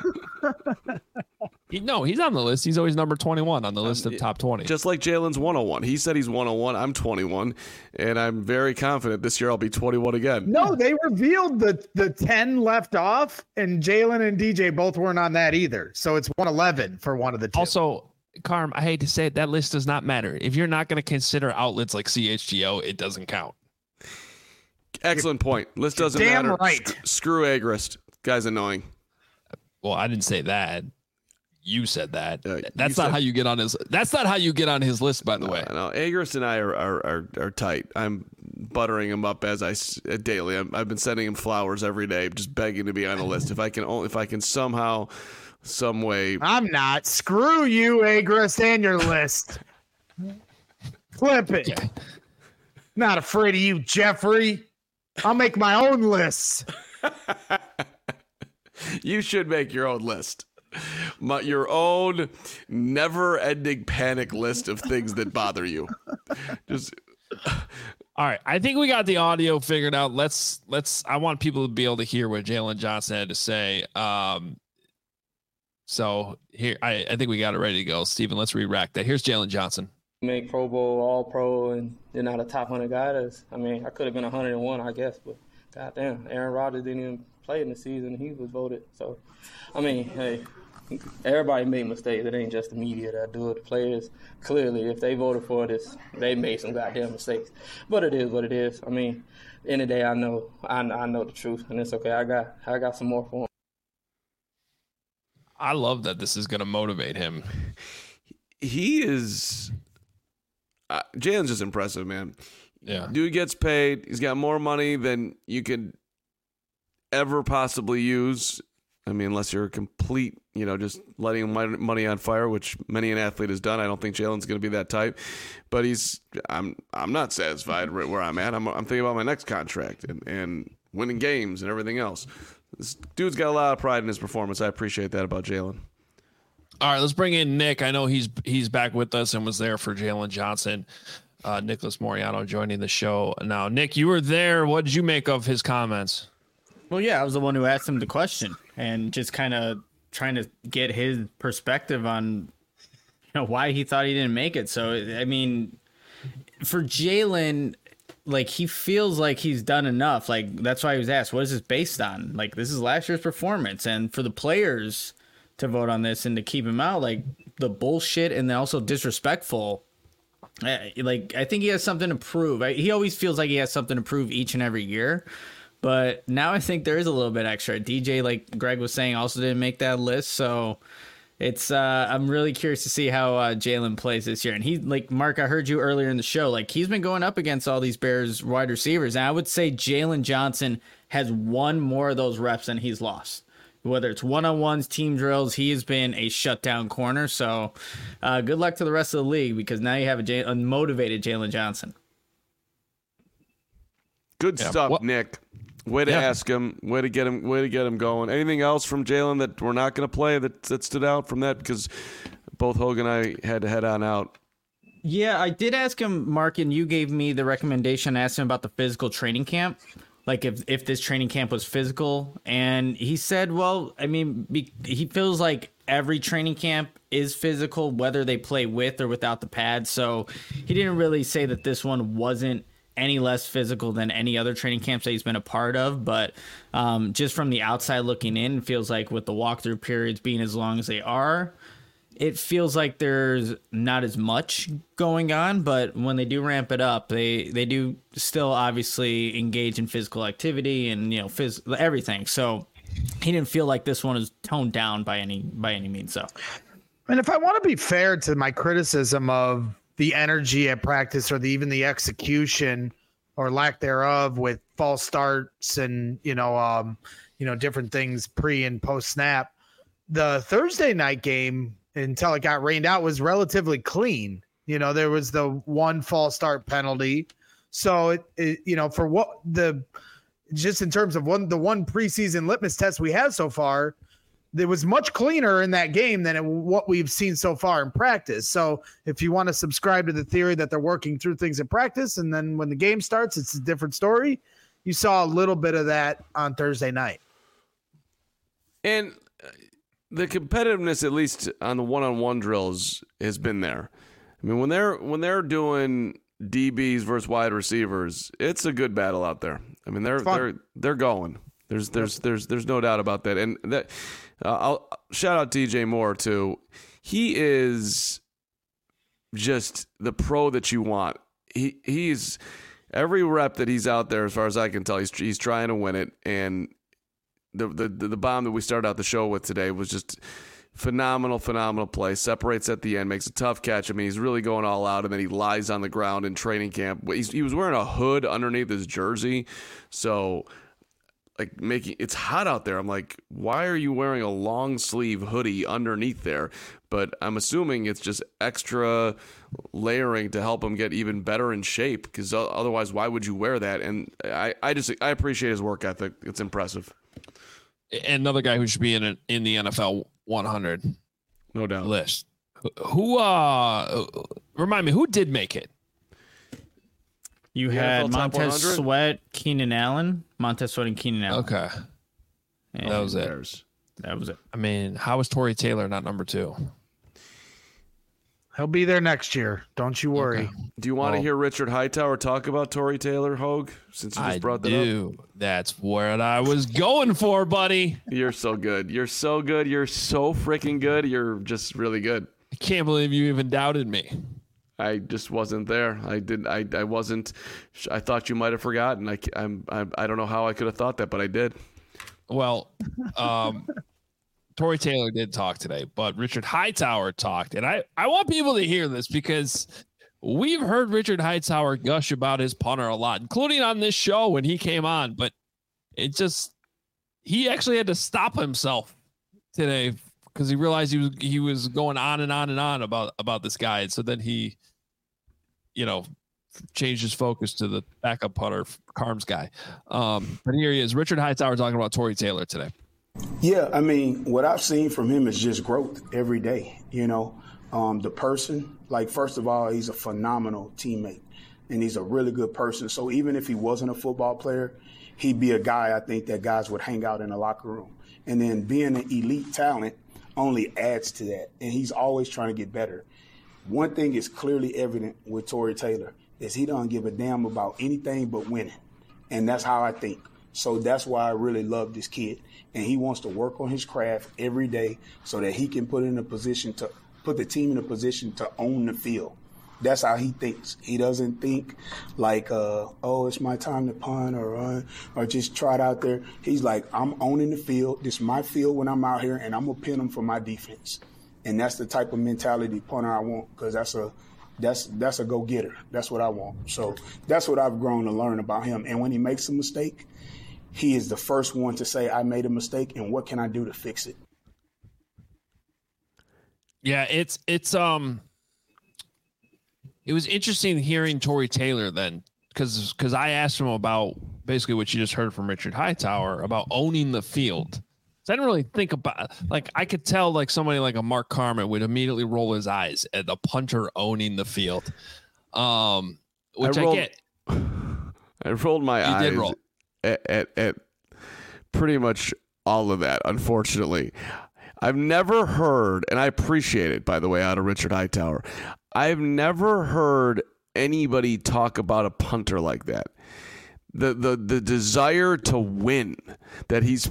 No, he's on the list. He's always number 21 on the list of top 20. Just like Jalen's 101. He said he's 101. I'm 21, and I'm very confident this year I'll be 21 again. No, they revealed the 10 left off, and Jalen and DJ both weren't on that either. So it's 111 for one of the two. Also, Carm, I hate to say it, that list does not matter. If you're not going to consider outlets like CHGO, it doesn't count. Excellent point. List doesn't damn matter. Right. Screw Agrist. Guy's annoying. Well, I didn't say that. You said that. That's not how you get on his. That's not how you get on his list, by the way. No, Agrist and I are tight. I'm buttering him up daily. I've been sending him flowers every day, just begging to be on the list. If I can somehow, some way. I'm not. Screw you, Agrist, and your list. Flip it. Yeah. Not afraid of you, Jeffrey. I'll make my own list. You should make your own list. Your own never-ending panic list of things that bother you. Just. All right, I think we got the audio figured out. Let's. I want people to be able to hear what Jalen Johnson had to say. So here, I think we got it ready to go. Steven, let's re-rack that. Here's Jalen Johnson. Make Pro Bowl, All Pro, and you're not a top 100 guy. I could have been 101, I guess, but goddamn, Aaron Rodgers didn't even play in the season. He was voted. So, hey, everybody made mistakes. It ain't just the media that do it. The players, clearly, if they voted for this, they made some goddamn mistakes. But it is what it is. End of the day, I know the truth, and it's okay. I got some more for him. I love that this is going to motivate him. He is. Jalen's just impressive, man. Yeah. Dude gets paid. He's got more money than you could ever possibly use. I mean, unless you're a complete, just letting money on fire, which many an athlete has done. I don't think Jalen's going to be that type, but I'm not satisfied right where I'm at. I'm thinking about my next contract and winning games and everything else. This dude's got a lot of pride in his performance. I appreciate that about Jalen. All right, let's bring in Nick. I know he's back with us and was there for Jalen Johnson. Nicholas Moriano joining the show now. Nick, you were there. What did you make of his comments? Well, yeah, I was the one who asked him the question and just kind of trying to get his perspective on why he thought he didn't make it. So, I mean, for Jalen, like, he feels like he's done enough. Like, that's why he was asked, what is this based on? Like, this is last year's performance. And for the players to vote on this and to keep him out, like, the bullshit and then also disrespectful, like, I think he has something to prove. He always feels like he has something to prove each and every year. But now I think there is a little bit extra. DJ, like Greg was saying, also didn't make that list. So it's I'm really curious to see how Jalen plays this year. And he, like, Mark, I heard you earlier in the show, like, he's been going up against all these Bears wide receivers. And I would say Jalen Johnson has won more of those reps than he's lost. Whether it's one-on-ones, team drills, he has been a shutdown corner. So good luck to the rest of the league, because now you have a motivated Jalen Johnson. Good stuff, Nick. Way to ask him. Way to get him going. Anything else from Jalen that we're not going to play that stood out from that? Because both Hogue and I had to head on out. Yeah, I did ask him, Mark, and you gave me the recommendation. I asked him about the physical training camp, like if this training camp was physical. And he said, well, I mean, he feels like every training camp is physical, whether they play with or without the pads. So he didn't really say that this one wasn't any less physical than any other training camps that he's been a part of. But just from the outside looking in, it feels like with the walkthrough periods being as long as they are, it feels like there's not as much going on. But when they do ramp it up, they do still obviously engage in physical activity and, everything. So he didn't feel like this one is toned down by any means. So, and if I want to be fair to my criticism of the energy at practice or even the execution or lack thereof with false starts and, different things pre and post snap, the Thursday night game until it got rained out was relatively clean. There was the one false start penalty. So for what just in terms of the one preseason litmus test we have so far, it was much cleaner in that game than what we've seen so far in practice. So if you want to subscribe to the theory that they're working through things in practice, and then when the game starts, it's a different story. You saw a little bit of that on Thursday night. And the competitiveness, at least on the one-on-one drills, has been there. I mean, when they're doing DBs versus wide receivers, it's a good battle out there. I mean, they're going. There's no doubt about that. And that I'll shout out DJ Moore too. He is just the pro that you want. He's every rep that he's out there, as far as I can tell, he's trying to win it. And the bomb that we started out the show with today was just phenomenal play. Separates at the end, makes a tough catch. I mean, he's really going all out, and then he lies on the ground in training camp. He was wearing a hood underneath his jersey, so it's hot out there. I'm like, why are you wearing a long sleeve hoodie underneath there? But I'm assuming it's just extra layering to help him get even better in shape, because otherwise, why would you wear that? And I appreciate his work ethic. It's impressive. Another guy who should be in the NFL 100, no doubt, list. Who remind me, who did make it? You had Montez Sweat, Keenan Allen. Montez Sweat and Keenan Allen. Okay. And that was it. That was it. I mean, how is Tory Taylor not number 2? He'll be there next year. Don't you worry. Okay. Do you want to hear Richard Hightower talk about Tory Taylor, Hogue, since you just brought that up? That's what I was going for, buddy. You're so good. You're so good. You're so freaking good. You're just really good. I can't believe you even doubted me. I just wasn't there. I wasn't. I thought you might have forgotten. I don't know how I could have thought that, but I did. Well, Tory Taylor did talk today, but Richard Hightower talked, and I want people to hear this, because we've heard Richard Hightower gush about his punter a lot, including on this show when he came on, but he actually had to stop himself today because he realized he was going on and on and on about this guy. And so then he, changed his focus to the backup punter, Carm's guy. But here he is, Richard Hightower, talking about Tory Taylor today. Yeah, I mean, what I've seen from him is just growth every day. The person, first of all, he's a phenomenal teammate, and he's a really good person. So even if he wasn't a football player, he'd be a guy I think that guys would hang out in the locker room. And then being an elite talent only adds to that, and he's always trying to get better. One thing is clearly evident with Tory Taylor is he don't give a damn about anything but winning, and that's how I think. So that's why I really love this kid, and he wants to work on his craft every day so that he can put the team in a position to own the field. That's how he thinks. He doesn't think like, it's my time to punt or just try it out there. He's like, I'm owning the field. This is my field when I'm out here, and I'm going to pin them for my defense. And that's the type of mentality punter I want, because that's a go-getter. That's what I want. So that's what I've grown to learn about him. And when he makes a mistake, he is the first one to say, I made a mistake, and what can I do to fix it? Yeah, it was interesting hearing Tory Taylor then, because I asked him about basically what you just heard from Richard Hightower about owning the field. So I didn't really think about, I could tell somebody like a Mark Carman would immediately roll his eyes at the punter owning the field, which I get. I rolled my eyes did roll. At pretty much all of that, unfortunately. I've never heard, and I appreciate it, by the way, out of Richard Hightower, I've never heard anybody talk about a punter like that. The desire to win that he's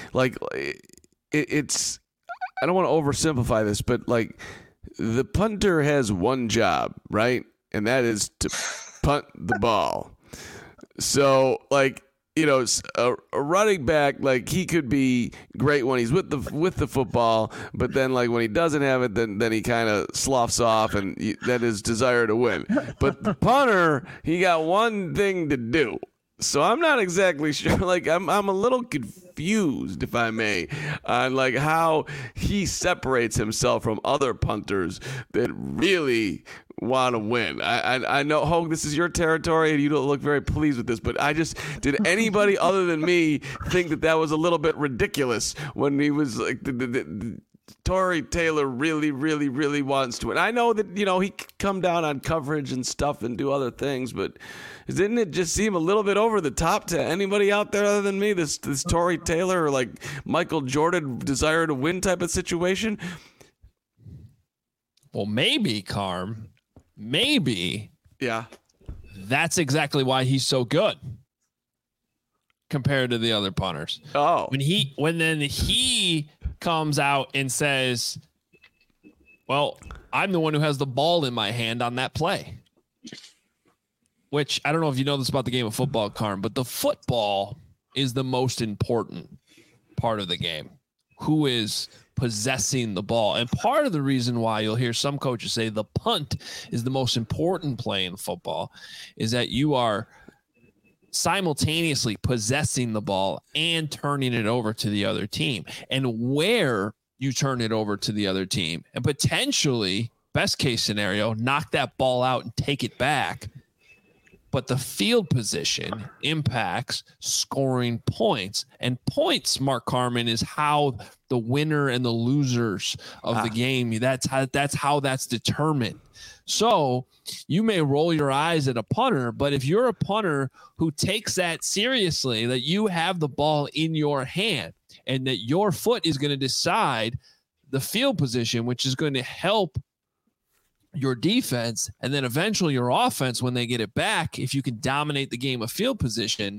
it's, I don't want to oversimplify this, but the punter has one job, right? And that is to punt the ball. So a running back, he could be great when he's with the football, but then when he doesn't have it, then he kind of sloughs off, and that is desire to win. But the punter, he got one thing to do. So I'm not exactly sure. I'm a little confused, if I may, on how he separates himself from other punters that really want to win. I know, Hogue, this is your territory, and you don't look very pleased with this, but did anybody other than me think that was a little bit ridiculous when he was Tory Taylor really, really, really wants to win? I know that, he could come down on coverage and stuff and do other things, but didn't it just seem a little bit over the top to anybody out there other than me, this Tory Taylor or Michael Jordan desire to win type of situation? Well, maybe, Carm. Maybe. Yeah. That's exactly why he's so good compared to the other punters. Oh. When then he comes out and says, well, I'm the one who has the ball in my hand on that play. Which, I don't know if you know this about the game of football, Carm, but the football is the most important part of the game. Who is possessing the ball? And part of the reason why you'll hear some coaches say the punt is the most important play in football is that you are simultaneously possessing the ball and turning it over to the other team. And where you turn it over to the other team and potentially, best case scenario, knock that ball out and take it back. But the field position impacts scoring points. And points, Mark Carman, is how the winner and the losers of the game, that's how that's determined. So you may roll your eyes at a punter, but if you're a punter who takes that seriously, that you have the ball in your hand and that your foot is going to decide the field position, which is going to help your defense and then eventually your offense when they get it back, if you can dominate the game of field position,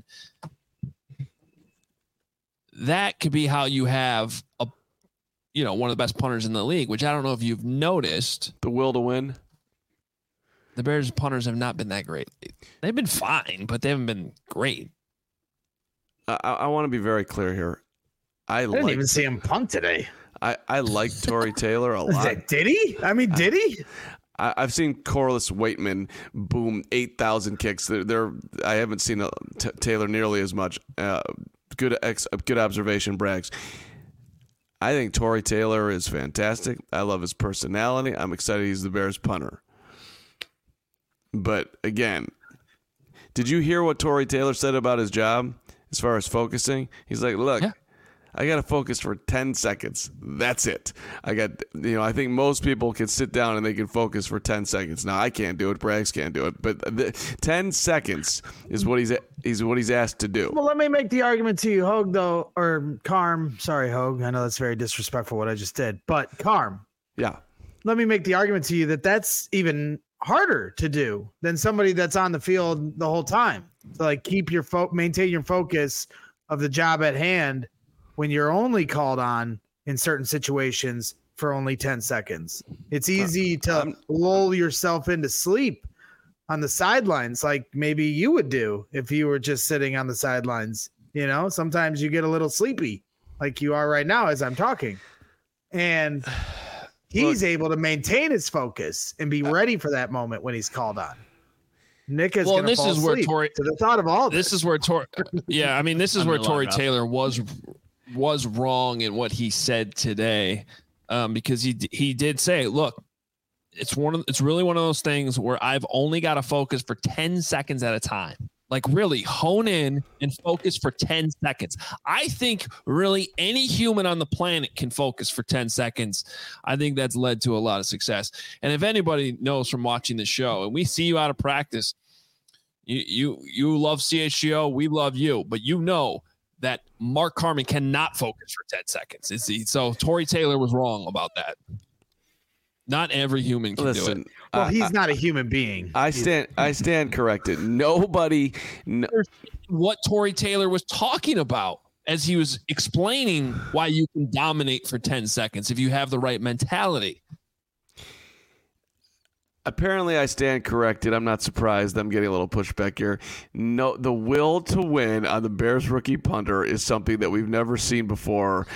that could be how you have one of the best punters in the league, which I don't know if you've noticed. The will to win. The Bears punters have not been that great. They've been fine, but they haven't been great. I want to be very clear here. I didn't even see him punt today. I like Tory Taylor a lot. Did he? I mean, did he? I've seen Corliss Waitman boom 8,000 kicks. I haven't seen Taylor nearly as much. Good observation, Braggs. I think Tory Taylor is fantastic. I love his personality. I'm excited he's the Bears punter. But again, did you hear what Tory Taylor said about his job as far as focusing? He's like, look, I got to focus for 10 seconds. That's it. I think most people can sit down and they can focus for 10 seconds. Now, I can't do it. Braggs can't do it. But 10 seconds is what he's asked to do. Well, let me make the argument to you, Hogue, though, or Carm. Sorry, Hogue. I know that's very disrespectful what I just did. But Carm. Yeah. Let me make the argument to you that that's even harder to do than somebody that's on the field the whole time. So, like, keep your maintain your focus of the job at hand when you're only called on in certain situations for only 10 seconds. It's easy to lull yourself into sleep on the sidelines, like maybe you would do if you were just sitting on the sidelines. You know, sometimes you get a little sleepy like you are right now as I'm talking. And he's able to maintain his focus and be ready for that moment when he's called on. Nick is going to fall asleep to the thought of all this. This is where Tory Taylor was wrong in what he said today, because he did say, look, it's really one of those things where I've only got to focus for 10 seconds at a time. Like, really hone in and focus for 10 seconds. I think really any human on the planet can focus for 10 seconds. I think that's led to a lot of success. And if anybody knows from watching the show, and we see you out of practice, you love CHGO, we love you, but you know that Mark Carman cannot focus for 10 seconds. So Tory Taylor was wrong about that. Not every human can do it. Well, he's not a human being. I stand corrected. Nobody. What Tory Taylor was talking about as he was explaining why you can dominate for 10 seconds if you have the right mentality. Apparently, I stand corrected. I'm not surprised. I'm getting a little pushback here. No, the will to win on the Bears rookie punter is something that we've never seen before.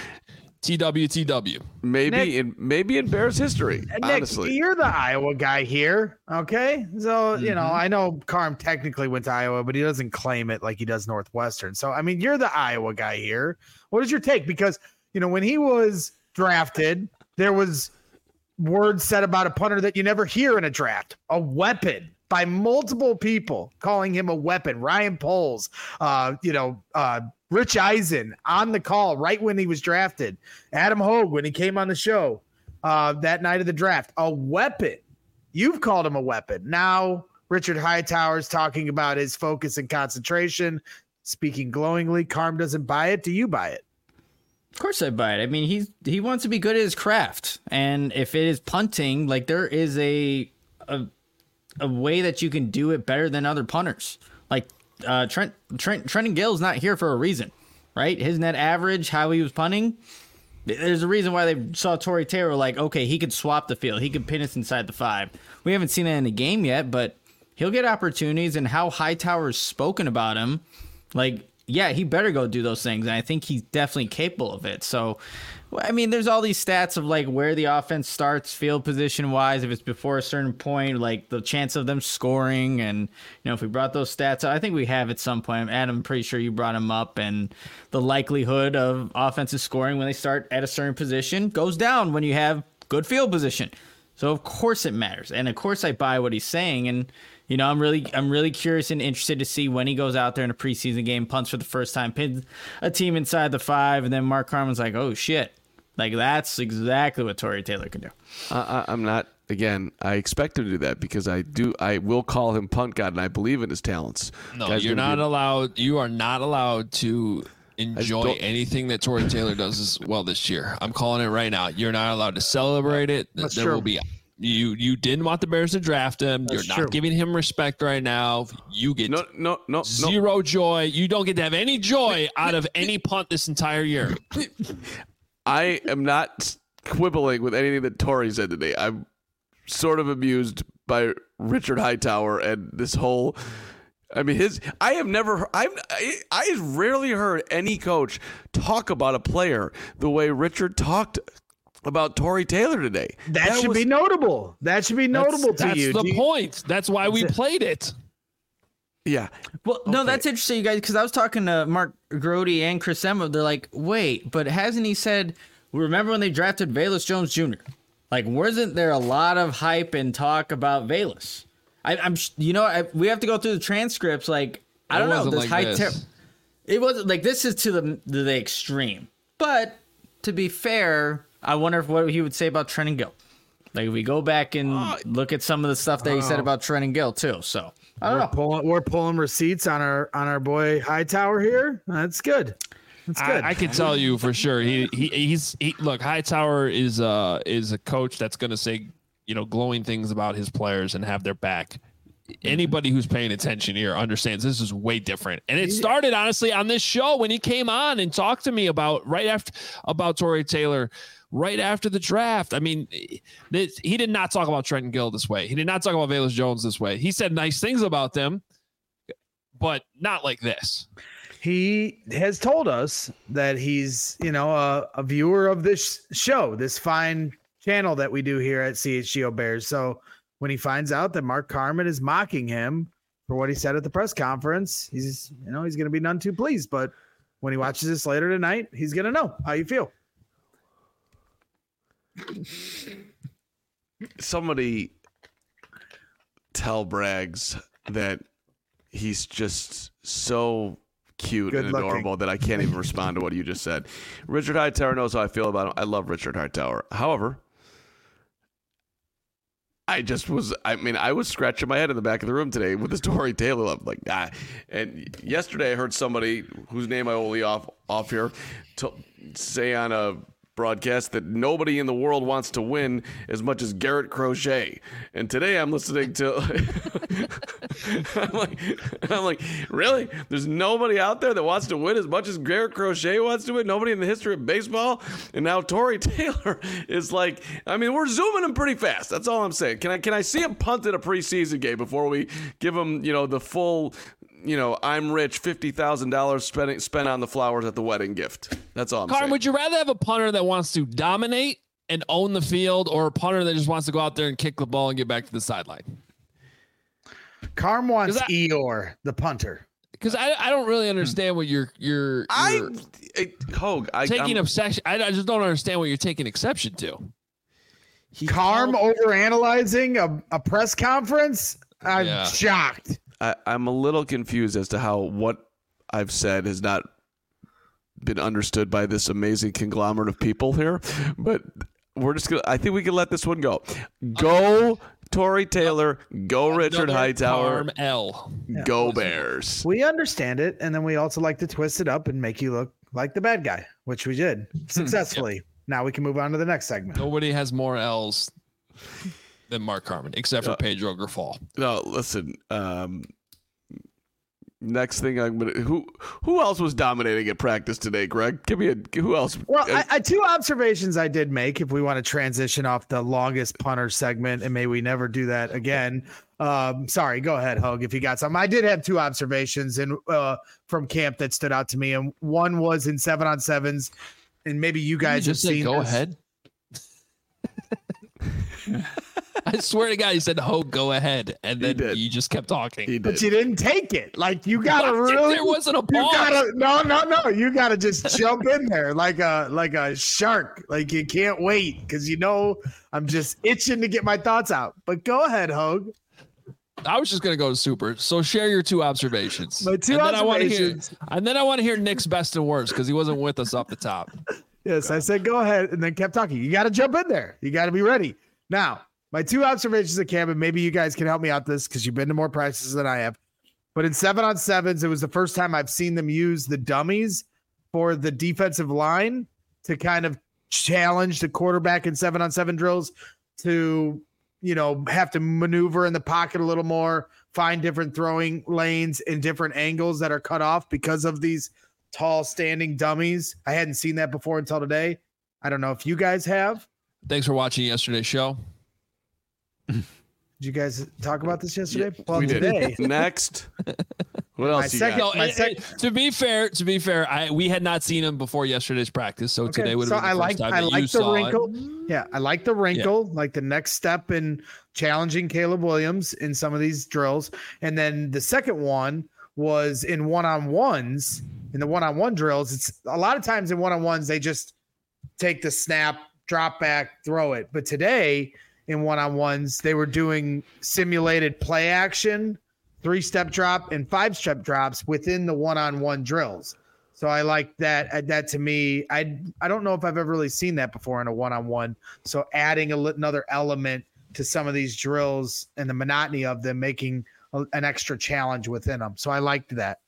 TWTW. Maybe in Bears history. Honestly, Nick, you're the Iowa guy here, okay? So I know Carm technically went to Iowa, but he doesn't claim it like he does Northwestern. So I mean, you're the Iowa guy here. What is your take? Because when he was drafted, there was words said about a punter that you never hear in a draft. A weapon by multiple people calling him a weapon. Ryan Poles, Rich Eisen on the call right when he was drafted. Adam Hogue when he came on the show that night of the draft. A weapon. You've called him a weapon. Now Richard Hightower's talking about his focus and concentration, speaking glowingly. Carm doesn't buy it. Do you buy it? Of course I buy it. I mean, he wants to be good at his craft. And if it is punting, like, there is a way that you can do it better than other punters. Like, Trenton Gill's not here for a reason, right? His net average, how he was punting, there's a reason why they saw Tory Taylor like, okay, he could swap the field. He could pin us inside the 5. We haven't seen that in the game yet, but he'll get opportunities, and how Hightower's spoken about him, like, yeah, he better go do those things, and I think he's definitely capable of it. So, I mean, there's all these stats of, like, where the offense starts field position-wise, if it's before a certain point, like the chance of them scoring, and, if we brought those stats, I think we have at some point. Adam, I'm pretty sure you brought them up, and the likelihood of offensive scoring when they start at a certain position goes down when you have good field position. So, of course it matters, and of course I buy what he's saying, and I'm really curious and interested to see when he goes out there in a preseason game, punts for the first time, pins a team inside the 5, and then Mark Carman's like, oh shit, like, that's exactly what Tory Taylor can do. I'm not. Again, I expect him to do that because I will call him punt god, and I believe in his talents. No, you're not allowed. You are not allowed to enjoy anything that Tory Taylor does as well this year. I'm calling it right now. You're not allowed to celebrate it. That's there true. will be. You didn't want the Bears to draft him. That's You're true. not giving him respect right now. You get no zero joy. You don't get to have any joy out of any punt this entire year. I am not quibbling with anything that Tory said today. I'm sort of amused by Richard Hightower and this whole. I mean, I rarely heard any coach talk about a player the way Richard talked about Tory Taylor today. That should be notable. That should be notable to you. That's the point. That's why we played it. Yeah. Well, no, that's interesting, you guys, because I was talking to Mark Grody and Chris Emma. They're like, wait, but hasn't he said, remember when they drafted Velus Jones Jr.? Like, wasn't there a lot of hype and talk about Velus? We have to go through the transcripts. Like, I don't know. It wasn't like this is to the extreme. But to be fair, I wonder what he would say about Trenton Gill. Like, if we go back and look at some of the stuff that he said about Trenton Gill too. So I don't know. We're pulling receipts on our boy Hightower here. That's good. That's good. I can tell you for sure. Look, Hightower is a coach that's going to say, glowing things about his players and have their back. Anybody who's paying attention here understands this is way different. And it started honestly on this show when he came on and talked to me about Tory Taylor right after the draft. I mean, he did not talk about Trenton Gill this way. He did not talk about Velus Jones this way. He said nice things about them, but not like this. He has told us that he's, a viewer of this show, this fine channel that we do here at CHGO Bears. So when he finds out that Mark Carman is mocking him for what he said at the press conference, he's going to be none too pleased. But when he watches this later tonight, he's going to know how you feel. Somebody tell Braggs that he's just so cute and adorable that I can't even respond to what you just said. Richard Hightower knows how I feel about him. I love Richard Hightower. However, I was scratching my head in the back of the room today with this Tory Taylor. I'm like, And yesterday I heard somebody whose name I will leave off here say on a broadcast that nobody in the world wants to win as much as Garrett Crochet. And today I'm listening to I'm like, really? There's nobody out there that wants to win as much as Garrett Crochet wants to win? Nobody in the history of baseball? And now Tory Taylor is like, we're zooming him pretty fast. That's all I'm saying. Can I see him punt in a preseason game before we give him, the full I'm rich, $50,000 spent on the flowers at the wedding gift. That's all I'm saying. Would you rather have a punter that wants to dominate and own the field, or a punter that just wants to go out there and kick the ball and get back to the sideline? Carm wants Eeyore, the punter. Because I don't really understand what you're taking obsession. I just don't understand what you're taking exception to. Carm overanalyzing a press conference? I'm shocked. I'm a little confused as to how what I've said has not been understood by this amazing conglomerate of people here, but I think we can let this one go. Go Tory Taylor, go Richard Hightower, go Bears. We understand it, and then we also like to twist it up and make you look like the bad guy, which we did successfully. Yep. Now we can move on to the next segment. Nobody has more L's than Mark Carman, except for Pedro Grifol. No, listen. Next thing I'm gonna who else was dominating at practice today, Greg? Give me who else? Well, I two observations I did make. If we want to transition off the longest punter segment, and may we never do that again. Sorry, go ahead, Hogue, if you got something. I did have two observations from camp that stood out to me, and one was in 7-on-7s, and maybe you guys have seen. Go ahead. I swear to God, he said, "Hogue, go ahead," and then you just kept talking. But you didn't take it. Like you gotta really. There wasn't a pause. No. You gotta just jump in there like a shark. Like you can't wait because I'm just itching to get my thoughts out. But go ahead, Hogue. I was just gonna go to super. So share your two observations. My two observations. And then I want to hear Nick's best and worst because he wasn't with us off the top. Yes, I said go ahead, and then kept talking. You got to jump in there. You got to be ready. Now, my two observations of camp, and maybe you guys can help me out this because you've been to more practices than I have. But in 7-on-7s, it was the first time I've seen them use the dummies for the defensive line to kind of challenge the quarterback in 7-on-7 drills to, have to maneuver in the pocket a little more, find different throwing lanes in different angles that are cut off because of these tall standing dummies. I hadn't seen that before until today. I don't know if you guys have. Thanks for watching yesterday's show. Did you guys talk about this yesterday? Yeah, we today. Next. What else you got? To be fair, we had not seen him before yesterday's practice, so today would have been the first time that you saw it. Yeah, I like the wrinkle, like the next step in challenging Caleb Williams in some of these drills. And then the second one was in one-on-ones. In the one-on-one drills, it's a lot of times in one-on-ones they just take the snap, drop back, throw it. But today in one-on-ones they were doing simulated play action, 3-step drop and 5-step drops within the one-on-one drills. So I like that. That to me, I don't know if I've ever really seen that before in a one-on-one. So adding another element to some of these drills and the monotony of them, making an extra challenge within them. So I liked that.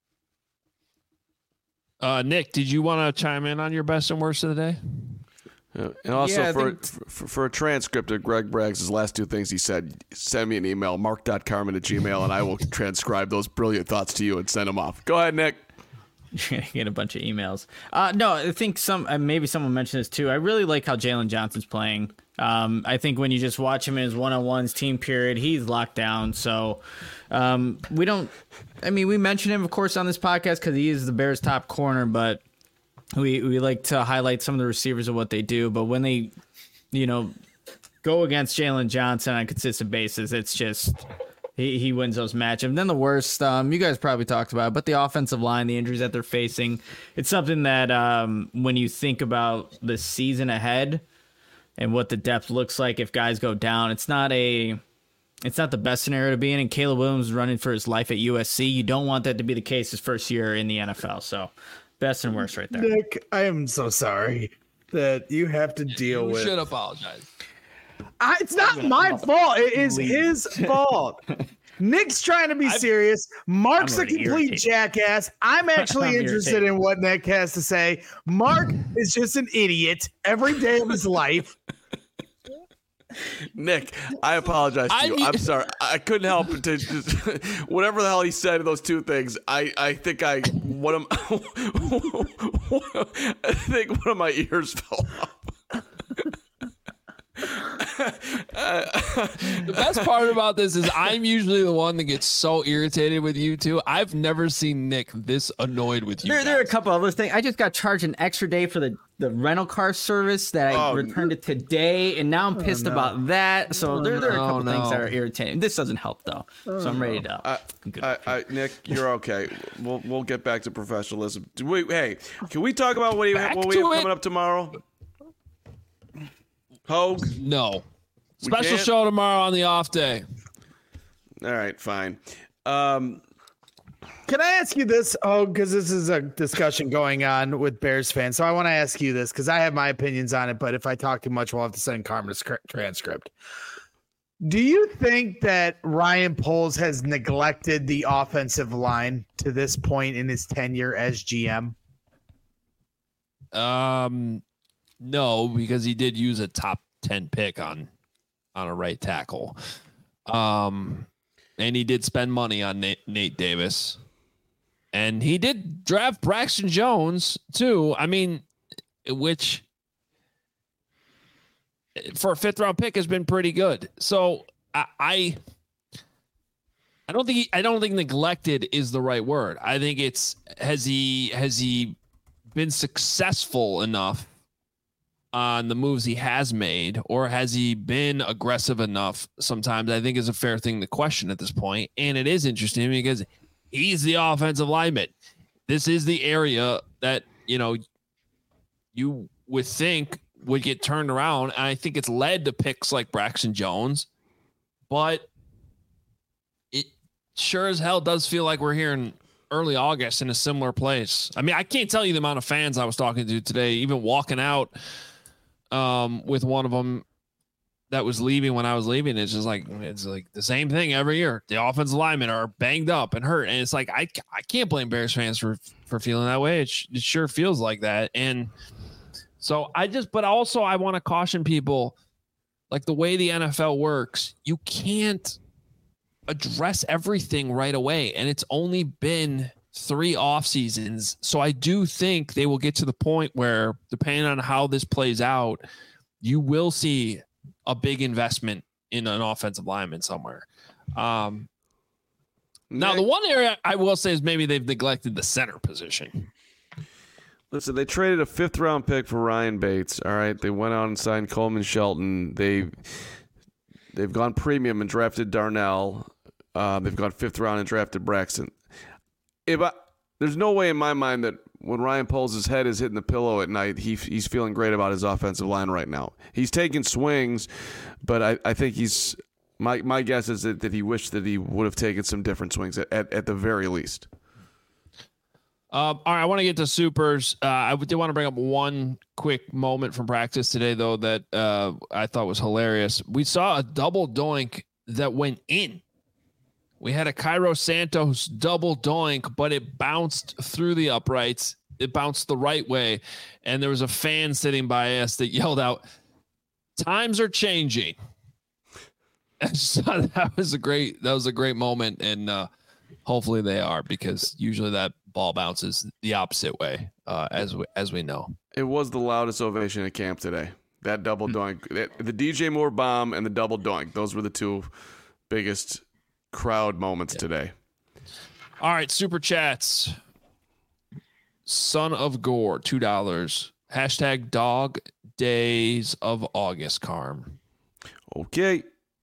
Nick, did you want to chime in on your best and worst of the day? And also for a transcript of Greg Braggs' last two things he said, send me an email, mark.carman@gmail.com, and I will transcribe those brilliant thoughts to you and send them off. Go ahead, Nick. You're gonna get a bunch of emails. No, I think maybe someone mentioned this too. I really like how Jalen Johnson's playing. I think when you just watch him in his one-on-ones, team period, he's locked down. So we mention him, of course, on this podcast because he is the Bears' top corner, but we like to highlight some of the receivers of what they do. But when they, go against Jalen Johnson on a consistent basis, it's just he wins those matchups. And then the worst, you guys probably talked about it, but the offensive line, the injuries that they're facing, it's something that when you think about the season ahead and what the depth looks like if guys go down, it's not the best scenario to be in. And Caleb Williams is running for his life at USC. You don't want that to be the case his first year in the NFL. So best and worst right there. Nick, I am so sorry that you have to deal with. You should apologize. It's not my fault. It is his fault. Nick's trying to be serious. Mark's a complete jackass. I'm actually interested in what Nick has to say. Mark is just an idiot every day of his life. Nick, I apologize to you. I'm sorry. I couldn't help it to just whatever the hell he said in those two things. I think one of my ears fell off. The best part about this is I'm usually the one that gets so irritated with you two. I've never seen Nick this annoyed with you. There are a couple other things. I just got charged an extra day for the rental car service that I returned it today, and now I'm pissed about that. So there are a couple things that are irritating. This doesn't help though, so I'm ready to. Nick, you're okay. We'll get back to professionalism. Hey, can we talk about what we have coming up tomorrow? Hogue? No. Special show tomorrow on the off day. All right, fine. Can I ask you this? Oh, because this is a discussion going on with Bears fans. So I want to ask you this because I have my opinions on it, but if I talk too much, we'll have to send Carmen a transcript. Do you think that Ryan Poles has neglected the offensive line to this point in his tenure as GM? No, because he did use a top 10 pick on a right tackle. And he did spend money on Nate Davis. And he did draft Braxton Jones too. I mean, which for a 5th round pick has been pretty good. So I don't think neglected is the right word. I think it's has he been successful enough on the moves he has made, or has he been aggressive enough? Sometimes I think is a fair thing to question at this point. And it is interesting because he's the offensive lineman. This is the area that, you would think would get turned around. And I think it's led to picks like Braxton Jones, but it sure as hell does feel like we're here in early August in a similar place. I mean, I can't tell you the amount of fans I was talking to today, even walking out with one of them that was leaving when I was leaving. It's like the same thing every year. The offensive linemen are banged up and hurt. And it's like, I can't blame Bears fans for feeling that way. It sure feels like that. And so but also I want to caution people, like the way the NFL works, you can't address everything right away. And it's only been 3 off seasons. So I do think they will get to the point where, depending on how this plays out, you will see a big investment in an offensive lineman somewhere. Now, the one area I will say is maybe they've neglected the center position. Listen, they traded a 5th-round pick for Ryan Bates. All right, they went out and signed Coleman Shelton. They've gone premium and drafted Darnell. They've gone 5th round and drafted Braxton. There's no way in my mind that when Ryan Poles' head is hitting the pillow at night, he's feeling great about his offensive line right now. He's taking swings, but I think he's my guess is that he wished that he would have taken some different swings at the very least. All right, I want to get to supers. I did want to bring up one quick moment from practice today, though, that I thought was hilarious. We saw a double doink that went in. We had a Cairo Santos double doink, but it bounced through the uprights. It bounced the right way, and there was a fan sitting by us that yelled out, "Times are changing." So that was a great moment, and hopefully they are, because usually that ball bounces the opposite way, as we know. It was the loudest ovation at camp today. That double doink, the DJ Moore bomb and the double doink. Those were the two biggest crowd moments today. All right, super chats. Son of Gore, $2. Hashtag dog days of August, Carm. Okay.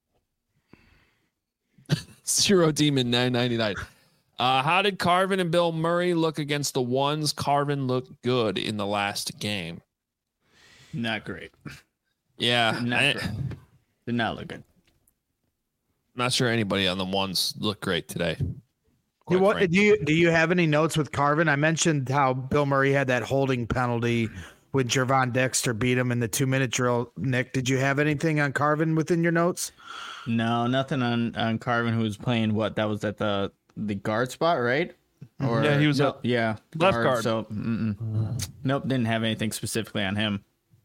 Zero Demon 999. How did Carvin and Bill Murray look against the ones? Carvin looked good in the last game. Not great. Yeah. Did not look good. Not sure anybody on the ones looked great today. Do you have any notes with Carvin? I mentioned how Bill Murray had that holding penalty when Gervon Dexter beat him in the 2-minute drill. Nick, did you have anything on Carvin within your notes? No, nothing on Carvin, who was playing what? That was at the guard spot, right? Or yeah, he was left guard. So nope, didn't have anything specifically on him.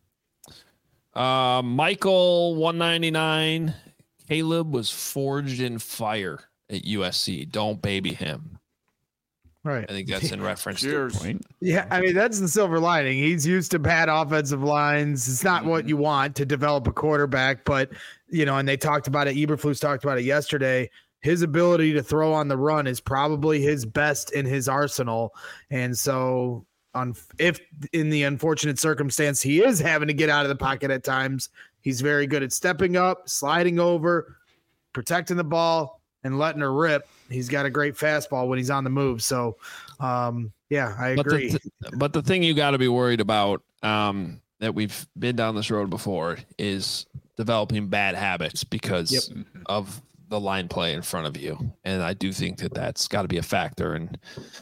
Michael 199. Caleb was forged in fire at USC. Don't baby him. Right. I think that's in reference to the point. Yeah, I mean, that's the silver lining. He's used to bad offensive lines. It's not what you want to develop a quarterback, but, and they talked about it. Eberflus talked about it yesterday. His ability to throw on the run is probably his best in his arsenal. And so if in the unfortunate circumstance he is having to get out of the pocket at times, he's very good at stepping up, sliding over, protecting the ball, and letting her rip. He's got a great fastball when he's on the move. So, yeah, I agree. But the thing you got to be worried about, that we've been down this road before, is developing bad habits because of the line play in front of you. And I do think that that's got to be a factor. And,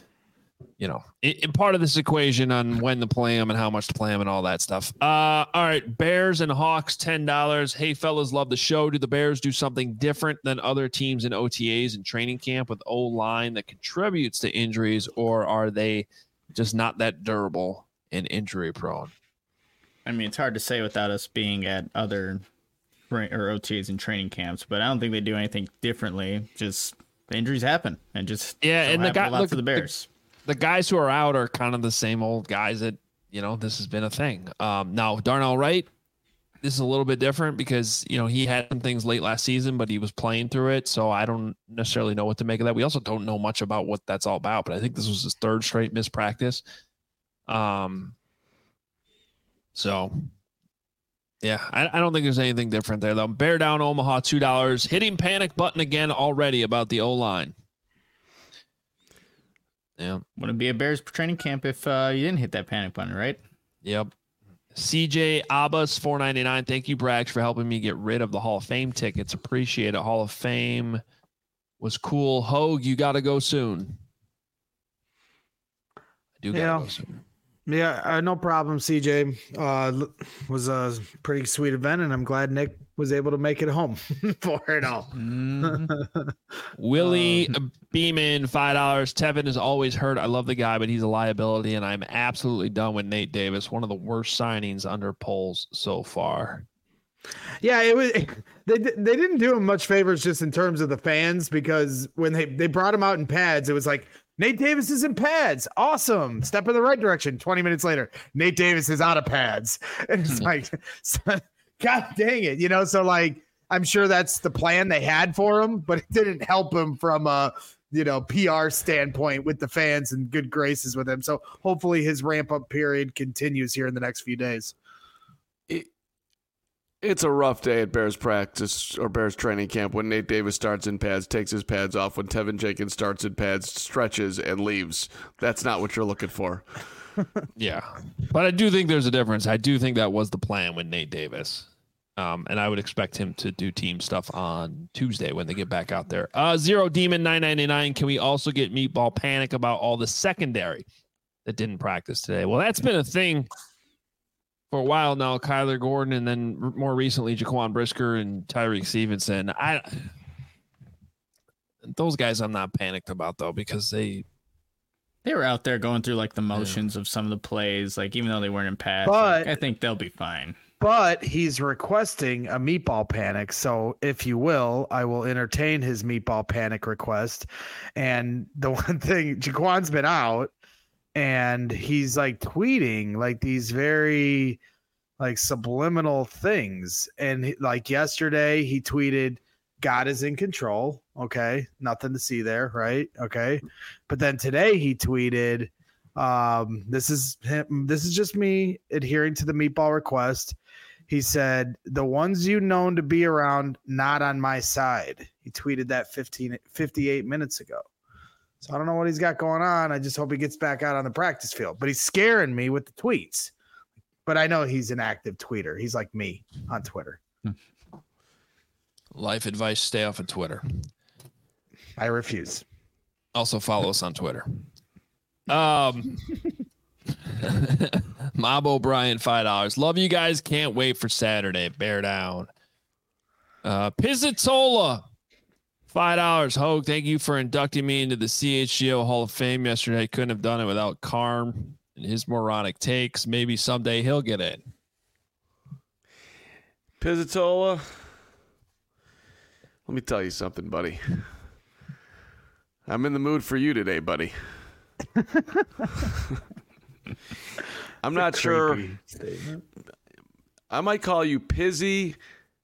in part of this equation on when to play them and how much to play them and all that stuff. All right. Bears and Hawks, $10. Hey, fellas, love the show. Do the Bears do something different than other teams in OTAs and training camp with O-line that contributes to injuries, or are they just not that durable and injury prone? I mean, it's hard to say without us being at other OTAs and training camps, but I don't think they do anything differently. Just the injuries happen, and just and the guy for the Bears. The guys who are out are kind of the same old guys that, this has been a thing. Now, Darnell Wright, this is a little bit different because, he had some things late last season, but he was playing through it. So I don't necessarily know what to make of that. We also don't know much about what that's all about, but I think this was his third straight missed practice. So, yeah, I don't think there's anything different there, though. Bear down Omaha, $2. Hitting panic button again already about the O-line. Yeah. Wouldn't be a Bears training camp if you didn't hit that panic button, right? Yep. CJ Abbas, $4.99. Thank you, Brax, for helping me get rid of the Hall of Fame tickets. Appreciate it. Hall of Fame was cool. Hogue, you got to go soon. I do got to go soon. Yeah, no problem, CJ. Was a pretty sweet event, and I'm glad Nick was able to make it home for it all. Willie Beeman, $5. Tevin is always hurt. I love the guy, but he's a liability, and I'm absolutely done with Nate Davis. One of the worst signings under polls so far. Yeah, it was. They didn't do him much favors just in terms of the fans, because when they brought him out in pads, it was like, Nate Davis is in pads. Awesome. Step in the right direction. 20 minutes later, Nate Davis is out of pads. And it's like, God dang it. So like, I'm sure that's the plan they had for him, but it didn't help him from PR standpoint with the fans and good graces with him. So hopefully his ramp up period continues here in the next few days. It's a rough day at Bears practice or Bears training camp when Nate Davis starts in pads, takes his pads off, when Tevin Jenkins starts in pads, stretches, and leaves. That's not what you're looking for. Yeah. But I do think there's a difference. I do think that was the plan with Nate Davis. And I would expect him to do team stuff on Tuesday when they get back out there. Zero Demon 999. Can we also get Meatball Panic about all the secondary that didn't practice today? Well, that's been a thing for a while now. Kyler Gordon, and then more recently Jaquan Brisker and Tyreek Stevenson. Those guys I'm not panicked about though, because they were out there going through like the motions of some of the plays, like even though they weren't in pads. But I think they'll be fine. But he's requesting a Meatball Panic. So if you will, I will entertain his Meatball Panic request. And the one thing, Jaquan's been out and he's like tweeting like these very like subliminal things. And like yesterday he tweeted, God is in control. Okay. Nothing to see there. Right. Okay. But then today he tweeted, this is just me adhering to the Meatball request. He said, the ones you known to be around, not on my side. He tweeted that 58 minutes ago. So I don't know what he's got going on. I just hope he gets back out on the practice field. But he's scaring me with the tweets. But I know he's an active tweeter. He's like me on Twitter. Life advice, stay off of Twitter. I refuse. Also follow us on Twitter. Mob O'Brien, $5. Love you guys. Can't wait for Saturday. Bear down. Pizzatola, $5. Hogue, thank you for inducting me into the CHGO Hall of Fame yesterday. Couldn't have done it without Carm and his moronic takes. Maybe someday he'll get in. Pizzatola, let me tell you something, buddy. I'm in the mood for you today, buddy. I'm not sure. Statement. I might call you Pizzy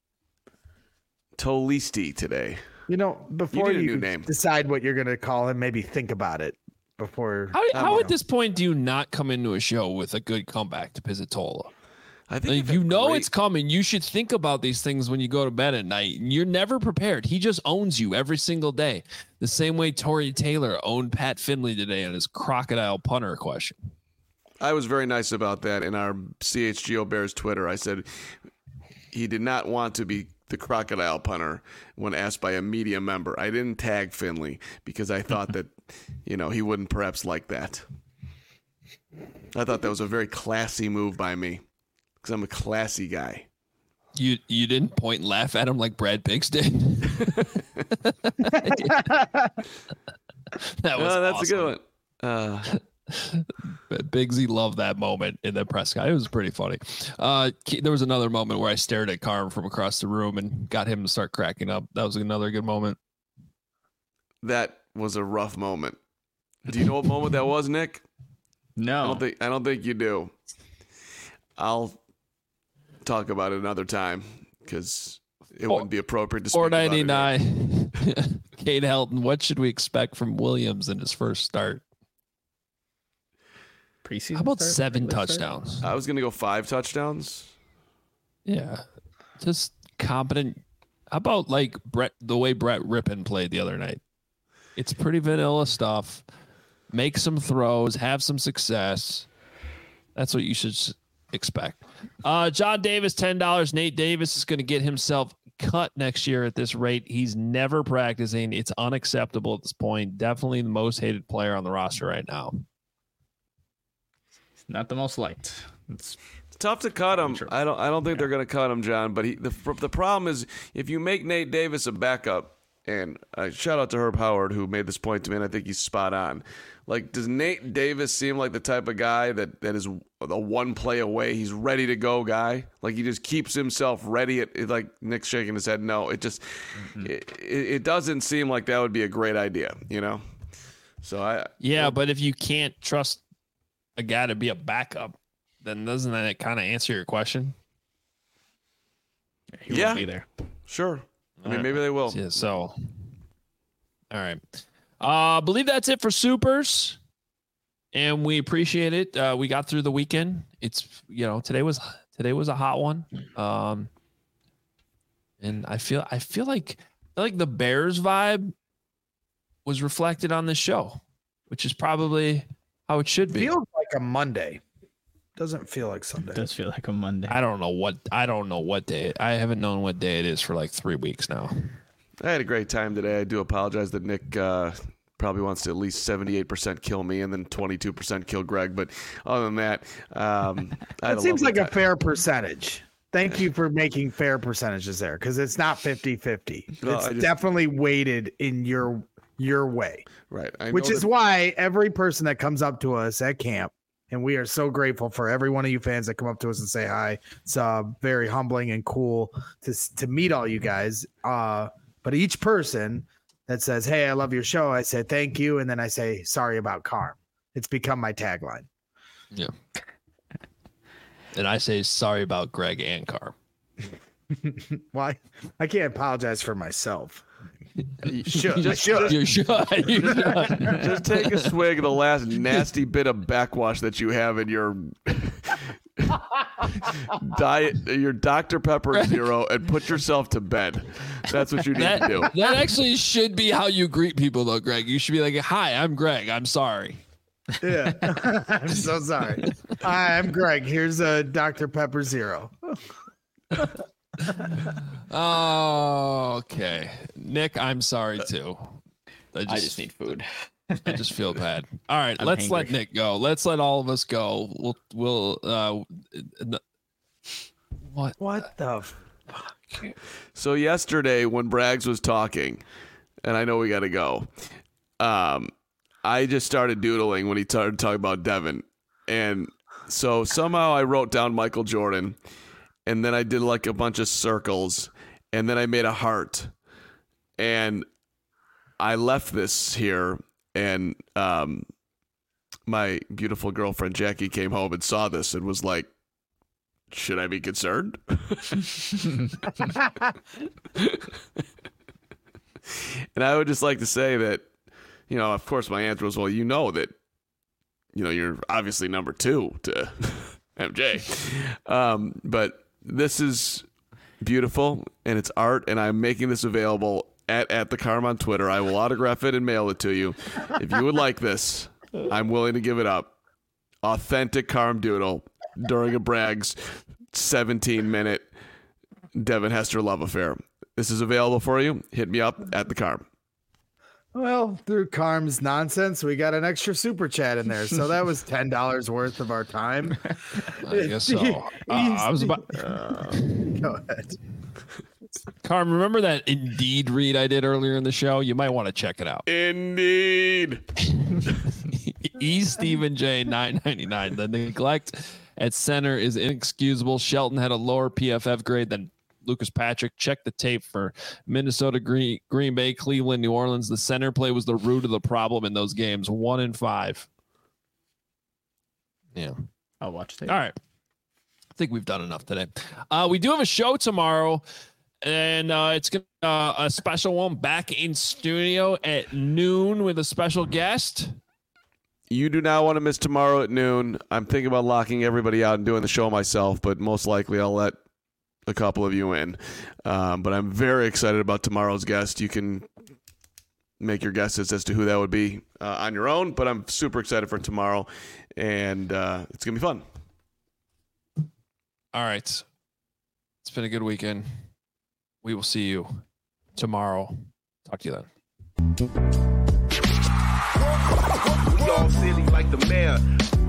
Tolisti today. Before you decide what you're going to call him, maybe think about it before. How at this point do you not come into a show with a good comeback to Pizzatola? I think it's coming. You should think about these things when you go to bed at night. You're never prepared. He just owns you every single day. The same way Torrey Taylor owned Pat Finley today on his crocodile punter question. I was very nice about that in our CHGO Bears Twitter. I said he did not want to be the crocodile punter when asked by a media member. I didn't tag Finley because I thought that, he wouldn't perhaps like that. I thought that was a very classy move by me because I'm a classy guy. You didn't point and laugh at him like Brad Biggs did. That's awesome. A good one. Biggsy loved that moment in the press guy. It was pretty funny. There was another moment where I stared at Carm from across the room and got him to start cracking up. That was another good moment. That was a rough moment. Do you know what moment that was, Nick? No. I don't think you do. I'll talk about it another time because it wouldn't be appropriate to speak about it. 499. Kate Helton, what should we expect from Williams in his first start? Preseason. How about 7 touchdowns? I was going to go 5 touchdowns. Yeah. Just competent. How about like the way Brett Rippon played the other night? It's pretty vanilla stuff. Make some throws, have some success. That's what you should expect. John Davis, $10. Nate Davis is going to get himself cut next year at this rate. He's never practicing. It's unacceptable at this point. Definitely the most hated player on the roster right now. Not the most liked. It's tough to cut him. I don't think they're going to cut him, John. But the problem is if you make Nate Davis a backup, and shout out to Herb Howard who made this point to me, and I think he's spot on. Like, does Nate Davis seem like the type of guy that is a one play away? He's ready to go guy. Like he just keeps himself ready. Like Nick's shaking his head. No, it just it doesn't seem like that would be a great idea. So but if you can't trust a guy to be a backup, then doesn't that kind of answer your question? He won't be there. Sure. I mean, maybe they will. Yeah, so, all right. I believe that's it for Supers. And we appreciate it. We got through the weekend. It's, today was a hot one. And I feel like the Bears vibe was reflected on this show, which is probably how it should be. Feels like a Monday. Doesn't feel like Sunday. It does feel like a Monday. I don't know what day. I haven't known what day it is for like 3 weeks now. I had a great time today. I do apologize that Nick probably wants to at least 78% kill me and then 22% kill Greg. But other than that, it seems like a fair percentage. Thank you for making fair percentages there, because it's not 50-50. Well, it's definitely weighted in your way. Right. Which is why every person that comes up to us at camp, and we are so grateful for every one of you fans that come up to us and say hi. It's very humbling and cool to meet all you guys. But each person that says, "Hey, I love your show," I say thank you, and then I say sorry about Carm. It's become my tagline. Yeah. And I say sorry about Greg and Carm. Why? I can't apologize for myself. You should. You should. Just take a swig of the last nasty bit of backwash that you have in your diet, your Dr. Pepper Zero, and put yourself to bed. That's what you need to do. That actually should be how you greet people, though, Greg. You should be like, "Hi, I'm Greg. I'm sorry." Yeah. I'm so sorry. Hi, I'm Greg. Here's a Dr. Pepper Zero. Oh, okay. Nick, I'm sorry too. I just need food. I just feel bad. All right, let's hangry. let Nick go. Let's let all of us go. We'll What the fuck? So yesterday when Braggs was talking, and I know we got to go, I just started doodling when he started talking about Devin. And so somehow I wrote down Michael Jordan, and then I did like a bunch of circles, and then I made a heart. And I left this here, and my beautiful girlfriend Jackie came home and saw this and was like, "Should I be concerned?" And I would just like to say that, of course my answer was, well, that, you're obviously number 2 to MJ. But this is beautiful, and it's art, and I'm making this available at the Carm on Twitter. I will autograph it and mail it to you. If you would like this, I'm willing to give it up. Authentic Carm doodle during a Braggs 17-minute Devin Hester love affair. This is available for you. Hit me up at the Carm. Well, through Carm's nonsense, we got an extra super chat in there. So that was $10 worth of our time. I guess so. I was about. Go ahead. Carm, remember that Indeed read I did earlier in the show? You might want to check it out. Indeed. Stephen J 999. The neglect at center is inexcusable. Shelton had a lower PFF grade than Lucas Patrick. Check the tape for Minnesota, Green Bay, Cleveland, New Orleans. The center play was the root of the problem in those games. 1 and 5. Yeah. I'll watch tape. All right. I think we've done enough today. We do have a show tomorrow, and it's gonna a special one back in studio at noon with a special guest. You do not want to miss tomorrow at noon. I'm thinking about locking everybody out and doing the show myself, but most likely I'll let a couple of you in. But I'm very excited about tomorrow's guest. You can make your guesses as to who that would be on your own, but I'm super excited for tomorrow, and it's going to be fun. All right. It's been a good weekend. We will see you tomorrow. Talk to you then. We all silly like the mayor.